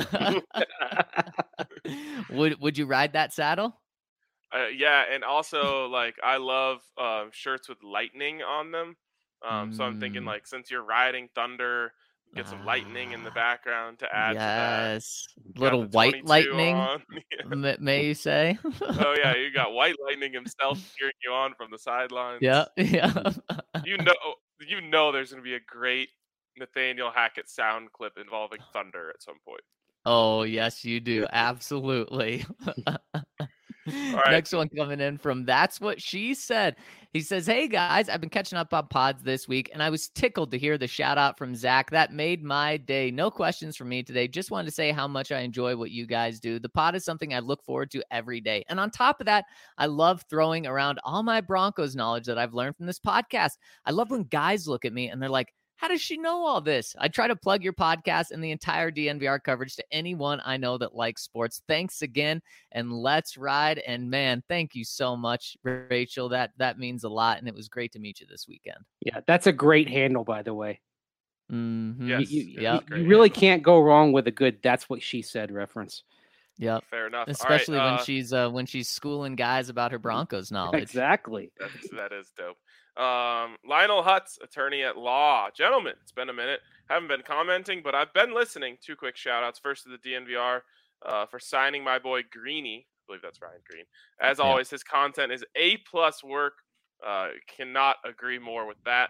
that. would Would you ride that saddle? Uh, yeah, and also, like, I love uh, shirts with lightning on them. Um, so I'm thinking, like, since you're riding thunder, get some lightning in the background to add yes. to that. Little white lightning, yeah. may you say? Oh, yeah, you got white lightning himself cheering you on from the sidelines. Yeah, yeah. you know, you know there's going to be a great Nathaniel Hackett sound clip involving thunder at some point. Oh, yes, you do. Absolutely. Right. Next one coming in from That's What She Said. He says, hey, guys, I've been catching up on pods this week, and I was tickled to hear the shout out from Zach. That made my day. No questions from me today. Just wanted to say how much I enjoy what you guys do. The pod is something I look forward to every day. And on top of that, I love throwing around all my Broncos knowledge that I've learned from this podcast. I love when guys look at me and they're like, how does she know all this? I try to plug your podcast and the entire D N V R coverage to anyone I know that likes sports. Thanks again, and let's ride. And man, thank you so much, Rachel. That that means a lot, and it was great to meet you this weekend. Yeah, that's a great handle, by the way. Mm-hmm. Yes, you, you, yep. you really can't go wrong with a good "That's What She Said" reference. Yep. Fair enough. Especially right, when uh, she's uh, when she's schooling guys about her Broncos knowledge. Exactly. That's, that is dope. Um, Lionel Hutz, attorney at law. Gentlemen, it's been a minute. Haven't been commenting, but I've been listening. Two quick shout outs. First to the D N V R uh, for signing my boy Greeny. I believe that's Ryan Green. As yeah. always, his content is A plus work. Uh, cannot agree more with that.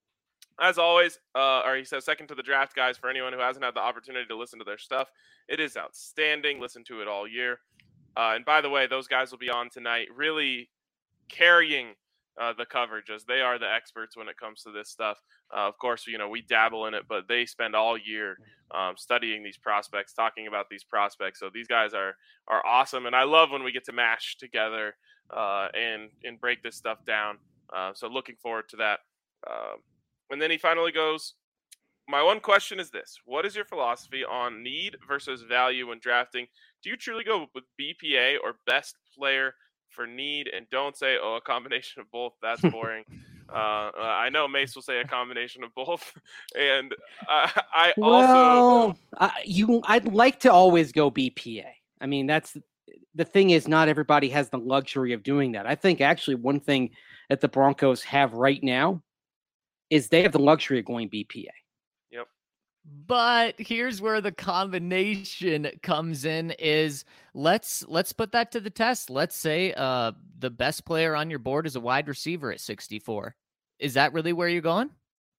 As always, uh, or he says, second to the draft, guys, for anyone who hasn't had the opportunity to listen to their stuff, it is outstanding. Listen to it all year. Uh, and by the way, those guys will be on tonight, really carrying uh, the coverage, as they are the experts when it comes to this stuff. Uh, of course, you know, we dabble in it, but they spend all year um, studying these prospects, talking about these prospects. So these guys are are awesome, and I love when we get to mash together uh, and and break this stuff down. Uh, so looking forward to that. Um, and then he finally goes, my one question is this. What is your philosophy on need versus value when drafting? Do you truly go with B P A or best player for need? And don't say, oh, a combination of both. That's boring. uh, I know Mace will say a combination of both. And I, I well, also... uh, you, I'd like to always go B P A. I mean, that's the thing is not everybody has the luxury of doing that. I think actually one thing that the Broncos have right now is they have the luxury of going B P A. Yep. But here's where the combination comes in is let's let's put that to the test. Let's say uh, the best player on your board is a wide receiver at sixty-four. Is that really where you're going?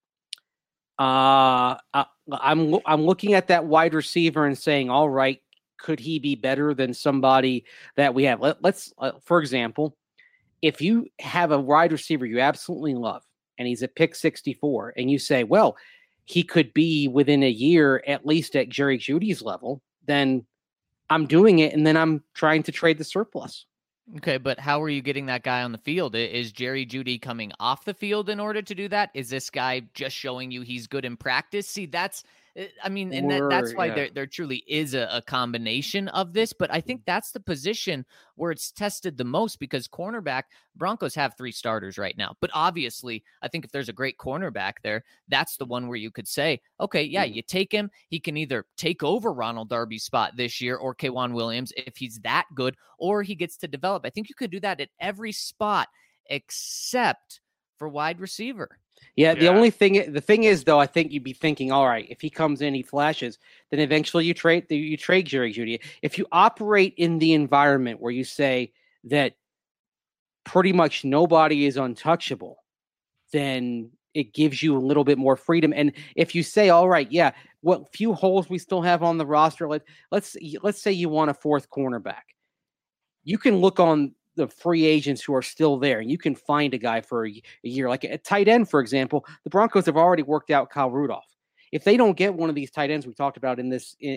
Uh, I, I'm I'm looking at that wide receiver and saying, all right, could he be better than somebody that we have? Let, let's, uh, for example, if you have a wide receiver you absolutely love, and he's at pick sixty-four, and you say, well, he could be within a year at least at Jerry Jeudy's level, then I'm doing it, and then I'm trying to trade the surplus. Okay, but how are you getting that guy on the field? Is Jerry Jeudy coming off the field in order to do that? Is this guy just showing you he's good in practice? See, that's, I mean, and that, that's why yeah. there, there truly is a, a combination of this, but I think that's the position where it's tested the most, because cornerback, Broncos have three starters right now, but obviously I think if there's a great cornerback there, that's the one where you could say, okay, yeah, you take him. He can either take over Ronald Darby's spot this year or K'Waun Williams if he's that good, or he gets to develop. I think you could do that at every spot except for wide receiver. Yeah, the yeah. only thing, the thing is, though, I think you'd be thinking, all right, if he comes in, he flashes, then eventually you trade, you trade Jerry Jeudy. If you operate in the environment where you say that pretty much nobody is untouchable, then it gives you a little bit more freedom. And if you say, all right, yeah, what few holes we still have on the roster, let, let's let's say you want a fourth cornerback, you can look on the free agents who are still there, and you can find a guy for a, a year. Like a tight end, for example, the Broncos have already worked out Kyle Rudolph. If they don't get one of these tight ends we talked about in this in,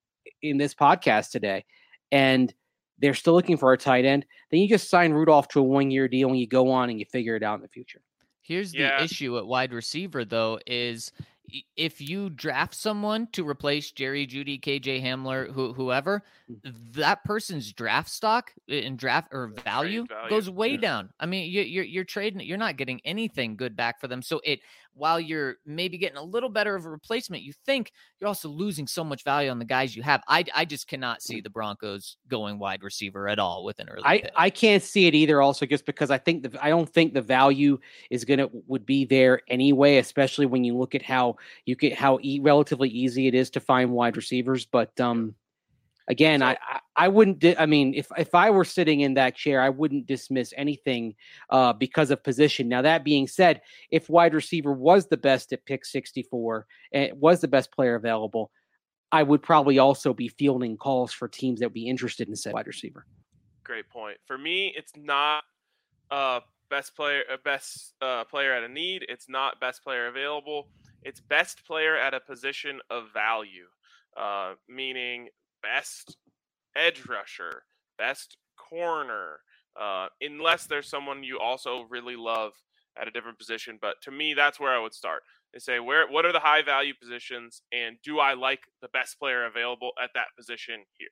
in this podcast today, and they're still looking for a tight end, then you just sign Rudolph to a one-year deal and you go on and you figure it out in the future. Here's yeah. the issue at wide receiver, though, is if you draft someone to replace Jerry Jeudy, K J Hamler, who, whoever, that person's draft stock and draft or value, value. goes way yeah. down. I mean, you, you're you're trading, you're not getting anything good back for them. So it, while you're maybe getting a little better of a replacement, you think you're also losing so much value on the guys you have. I I just cannot see the Broncos going wide receiver at all with an early I, pick. I can't see it either. Also, just because I think the I don't think the value is gonna would be there anyway, especially when you look at how you get how e- relatively easy it is to find wide receivers. But um, again, so, I, I I wouldn't. Di- I mean, if if I were sitting in that chair, I wouldn't dismiss anything uh, because of position. Now, that being said, if wide receiver was the best at pick sixty-four and was the best player available, I would probably also be fielding calls for teams that would be interested in said wide receiver. Great point. For me, it's not uh, best player, uh, best uh, player at a need. It's not best player available. It's best player at a position of value, uh, meaning best edge rusher, best corner, uh, unless there's someone you also really love at a different position. But to me, that's where I would start. They say, where, what are the high value positions, and do I like the best player available at that position here?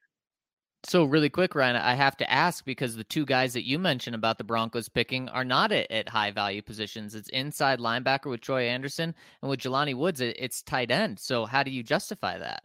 So really quick, Ryan, I have to ask, because the two guys that you mentioned about the Broncos picking are not at, at high value positions. It's inside linebacker with Troy Anderson, and with Jelani Woods, it, it's tight end. So how do you justify that?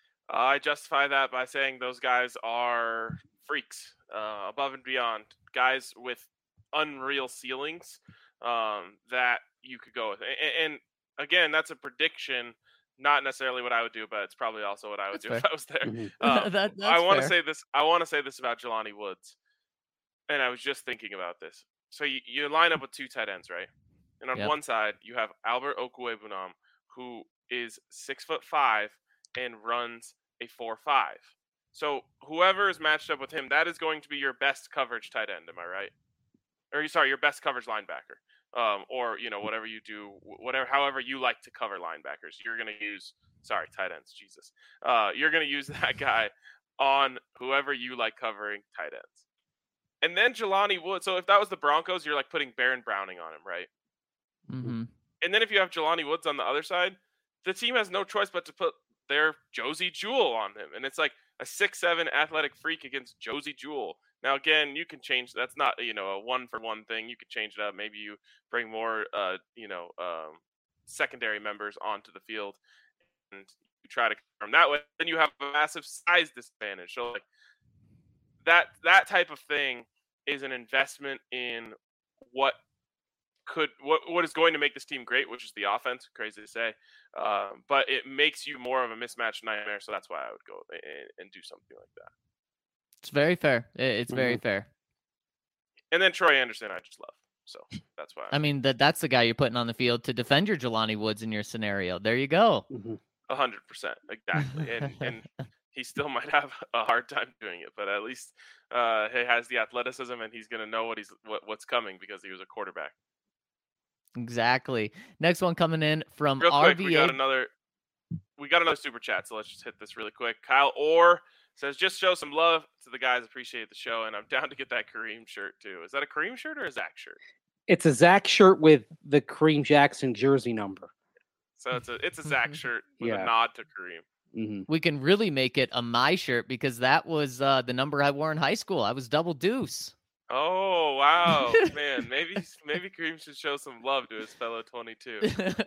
I justify that by saying those guys are freaks, uh, above and beyond, guys with unreal ceilings um, that you could go with. And, and again, that's a prediction. Not necessarily what I would do, but it's probably also what I would that's do fair. If I was there. Mm-hmm. Um, that, I want to say this. I want to say this about Jelani Woods, and I was just thinking about this. So you, you line up with two tight ends, right? And on yep. one side you have Albert Okwuegbunam, who is six foot five and runs a four five. So whoever is matched up with him, that is going to be your best coverage tight end. Am I right? Or sorry, your best coverage linebacker. Um, or, you know, whatever you do, whatever, however you like to cover linebackers, you're going to use, sorry, tight ends, Jesus. Uh, you're going to use that guy on whoever you like covering tight ends. And then Jelani Woods. So if that was the Broncos, you're like putting Baron Browning on him, right? Mm-hmm. And then if you have Jelani Woods on the other side, the team has no choice but to put their Josie Jewell on him. And it's like a six seven athletic freak against Josie Jewell. Now, again, you can change. That's not, you know, a one-for-one thing. You could change it up. Maybe you bring more, uh, you know, um, secondary members onto the field and you try to confirm that way. Then you have a massive size disadvantage. So, like, that that type of thing is an investment in what could what what is going to make this team great, which is the offense. Crazy to say, um, but it makes you more of a mismatch nightmare. So that's why I would go and, and do something like that. It's very fair. It's very mm-hmm. fair. And then Troy Anderson, I just love. So that's why. I mean, that that's the guy you're putting on the field to defend your Jelani Woods in your scenario. There you go. A hundred percent. Exactly. And and he still might have a hard time doing it, but at least uh, he has the athleticism and he's going to know what he's what, what's coming because he was a quarterback. Exactly. Next one coming in from Real R V A. quick, we got another. We got another super chat, so let's just hit this really quick. Kyle Orr says, "Just show some love to the guys. Appreciate the show, and I'm down to get that Kareem shirt too. Is that a Kareem shirt or a Zach shirt?" It's a Zach shirt with the Kareem Jackson jersey number. So it's a it's a Zach shirt with Yeah. a nod to Kareem. Mm-hmm. We can really make it a my shirt because that was uh, the number I wore in high school. I was double deuce. Oh wow, man! Maybe maybe Kareem should show some love to his fellow twenty-two.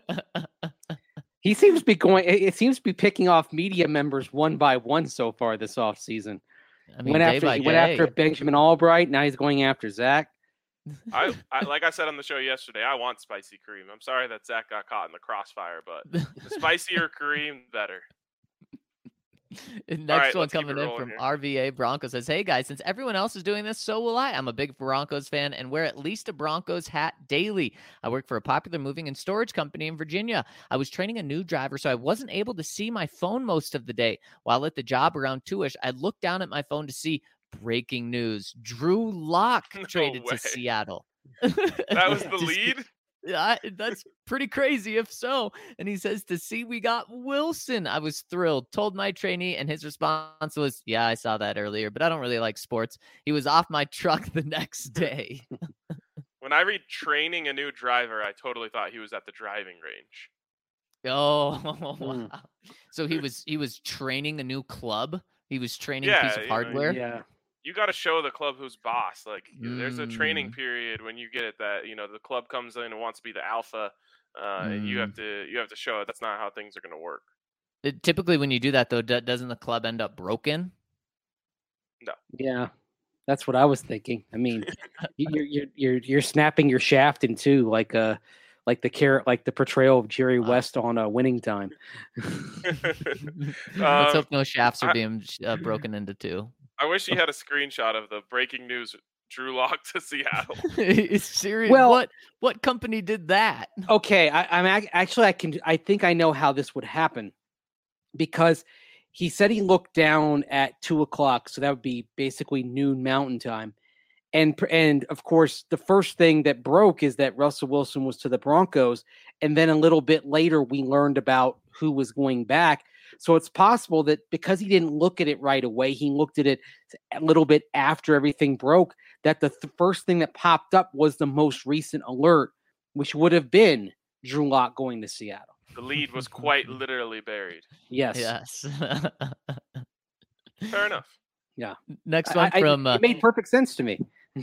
He seems to be going. It it seems to be picking off media members one by one so far this offseason. I mean, went day after by he went day. after Benjamin Albright. Now he's going after Zach. I, I like I said on the show yesterday, I want spicy Kareem. I'm sorry that Zach got caught in the crossfire, but the spicier Kareem, better. Next right, one let's keep coming it in rolling from here. R V A Broncos says, "Hey guys, since everyone else is doing this, so will I. I'm a big Broncos fan and wear at least a Broncos hat daily. I work for a popular moving and storage company in Virginia. I was training a new driver, so I wasn't able to see my phone most of the day. While at the job around two-ish, I looked down at my phone to see breaking news. Drew Lock No traded way. to Seattle." That was the Just- lead. Yeah, that's pretty crazy if so. And he says, "To see we got Wilson." I was thrilled. Told my trainee, and his response was, "Yeah, I saw that earlier, but I don't really like sports." He was off my truck the next day. When I read training a new driver, I totally thought he was at the driving range. Oh, Mm. wow. So he was he was training a new club. He was training Yeah, a piece you of know, hardware. Yeah. You got to show the club who's boss. Like there's a training Mm. period when you get it that you know the club comes in and wants to be the alpha, uh, and you have to you have to show it. That's not how things are going to work. It- typically, when you do that, though, do- doesn't the club end up broken? Yeah. That's what I was thinking. I mean, you- you're you're you're you're snapping your shaft in two, like uh like the carrot, like the portrayal of Jerry Wow. West on a uh, Winning Time. Let's Um, hope no shafts are I- being uh, broken into two. I wish you had a screenshot of the breaking news: Drew Lock to Seattle. It's serious. Well- what what company did that? Okay, I, I'm ac- actually I can I think I know how this would happen, because he said he looked down at two o'clock, so that would be basically noon Mountain Time, and pr- and of course the first thing that broke is that Russell Wilson was to the Broncos, and then a little bit later we learned about who was going back. So it's possible that because he didn't look at it right away, he looked at it a little bit after everything broke, that the th- first thing that popped up was the most recent alert, which would have been Drew Lock going to Seattle. The lead was quite literally buried. Yes. Yes. Fair enough. Next I- one I- from uh, it made perfect sense to me.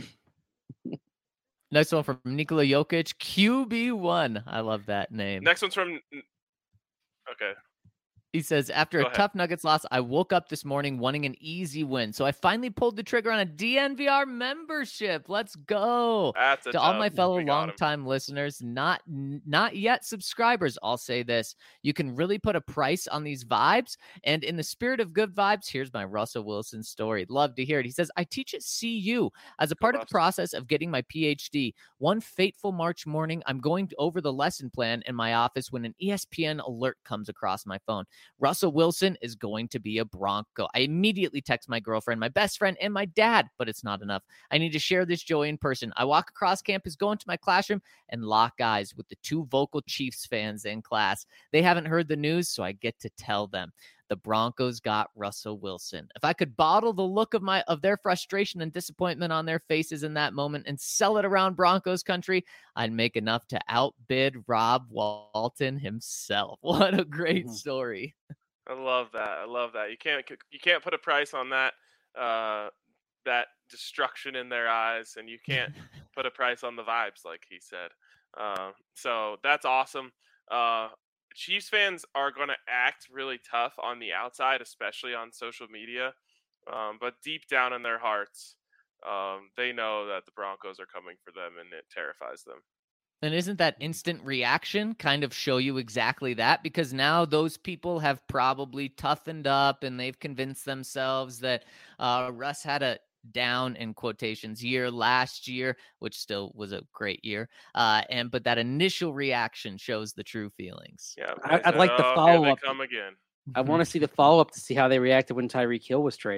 next one from Nikola Jokic, Q B one. I love that name. Next one's from. Okay. He says, "After Go a ahead. tough Nuggets loss, I woke up this morning wanting an easy win. So I finally pulled the trigger on a D N V R membership. Let's go." That's a To all dub. my fellow We got 'em. longtime listeners, not n- not yet subscribers, I'll say this: you can really put a price on these vibes. And in the spirit of good vibes, here's my Russell Wilson story. Love to hear it. He says, "I teach at C U. As a part of the Buffs. process of getting my P H D, one fateful March morning, I'm going over the lesson plan in my office when an E S P N alert comes across my phone. Russell Wilson is going to be a Bronco. I immediately text my girlfriend, my best friend, and my dad, but it's not enough. I need to share this joy in person. I walk across campus, go into my classroom, and lock eyes with the two vocal Chiefs fans in class. They haven't heard the news, so I get to tell them. The Broncos got Russell Wilson. If I could bottle the look of my of their frustration and disappointment on their faces in that moment and sell it around Broncos country, I'd make enough to outbid Rob Walton himself." What a great Mhm. story. I love that. I love that. You can't you can't put a price on that uh, that destruction in their eyes, and you can't put a price on the vibes, like he said. Uh, so that's awesome. Uh, Chiefs fans are going to act really tough on the outside, especially on social media. Um, but deep down in their hearts, um, they know that the Broncos are coming for them, and it terrifies them. And isn't that instant reaction kind of show you exactly that? Because now those people have probably toughened up and they've convinced themselves that uh, Russ had a down in quotations year last year, which still was a great year. Uh, and but that initial reaction shows the true feelings. Yeah, I- they I'd like the "Oh, here follow-up. They come again. I want to see the follow up to see how they reacted when Tyreek Hill was traded.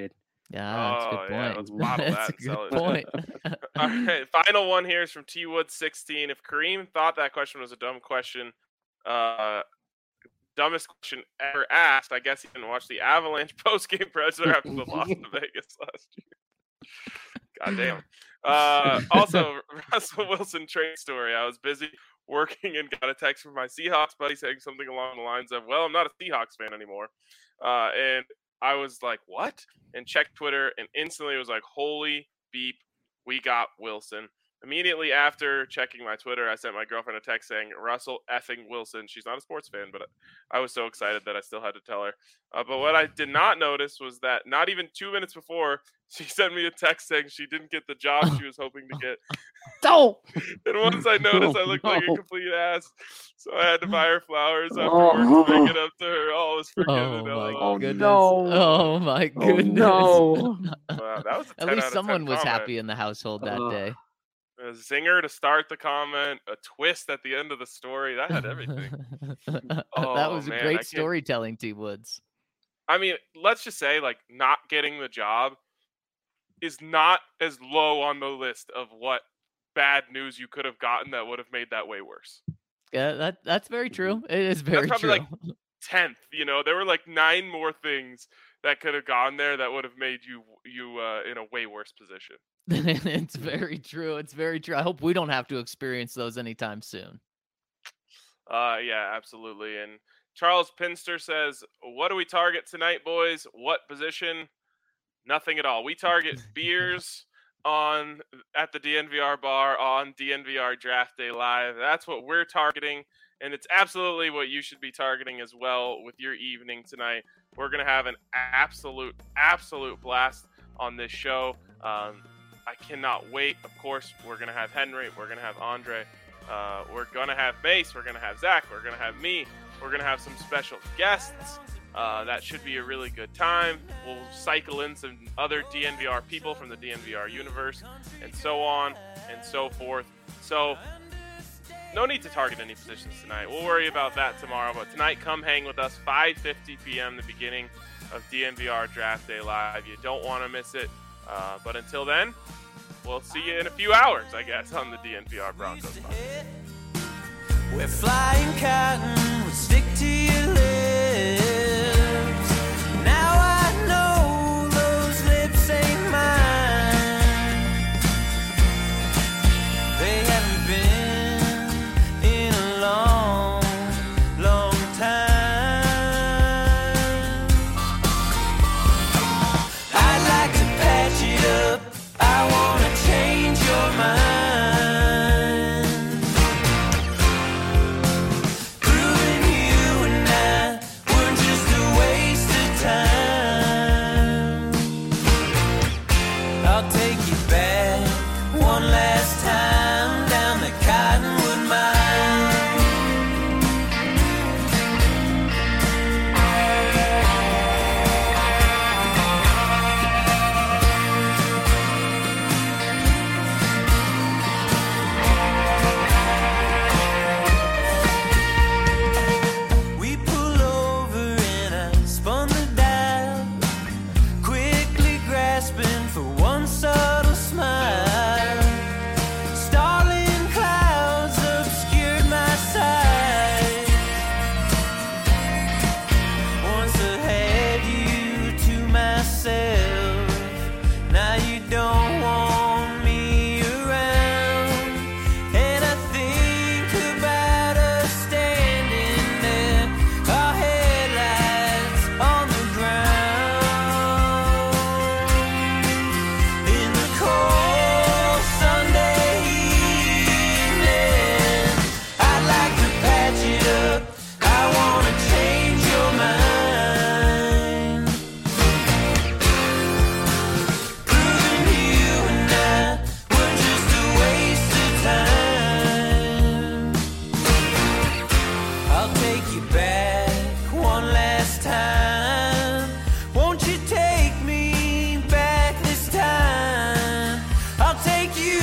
Yeah, that's a Oh, good yeah, point. let's bottle that That's a and sell good it. point. All right, final one here is from T Wood sixteen. If Kareem thought that question was a dumb question, uh, dumbest question ever asked, I guess he didn't watch the Avalanche postgame presser after the loss to Vegas last year. God damn. Uh, also, Russell Wilson trade story. I was busy working and got a text from my Seahawks buddy saying something along the lines of, well, I'm not a Seahawks fan anymore. Uh, and I was like, what? And checked Twitter, and instantly it was like, holy beep, we got Wilson. Immediately after checking my Twitter, I sent my girlfriend a text saying, Russell effing Wilson. She's not a sports fan, but I was so excited that I still had to tell her. Uh, but what I did not notice was that not even two minutes before, she sent me a text saying she didn't get the job she was hoping to get. Don't. And once I noticed I looked Oh, like a no. complete ass, so I had to buy her flowers after Oh. work to make it up to her. All was Oh forgiven. my Oh, goodness. no. Oh my Oh, goodness. no. wow, that was a At ten out least of someone ten was comment. happy in the household that Uh, day. A zinger to start the comment, a twist at the end of the story. That had everything. that Oh, was man, I great can't- storytelling, T Woods. I mean, let's just say, like, not getting the job is not as low on the list of what bad news you could have gotten that would have made that way worse. Yeah, that that's very true. It is very probably, true. like, tenth, you know, there were like nine more things that could have gone there that would have made you you uh, in a way worse position. It's very true. It's very true. I hope we don't have to experience those anytime soon. Uh, yeah, absolutely. And Charles Pinster says, "What do we target tonight, boys? What position? Nothing at all. We target beers on at the D N V R bar on D N V R Draft Day Live. That's what we're targeting, and it's absolutely what you should be targeting as well with your evening tonight. We're gonna have an absolute, absolute blast on this show. Um, I cannot wait. Of course, we're gonna have Henry. We're gonna have Andre. Uh, we're gonna have Mace. We're gonna have Zach. We're gonna have me. We're gonna have some special guests. Uh, that should be a really good time. We'll cycle in some other D N V R people from the D N V R universe, and so on and so forth. So, no need to target any positions tonight. We'll worry about that tomorrow. But tonight, come hang with us. five fifty p.m. the beginning of D N V R Draft Day Live. You don't want to miss it. Uh, but until then, we'll see you in a few hours, I guess, on the D N V R Broncos podcast. Where flying cotton would stick to your lips. Now I know those lips ain't mine. They haven't been in a long, long time. I'd like to patch it up. I wanna change your mind. Take you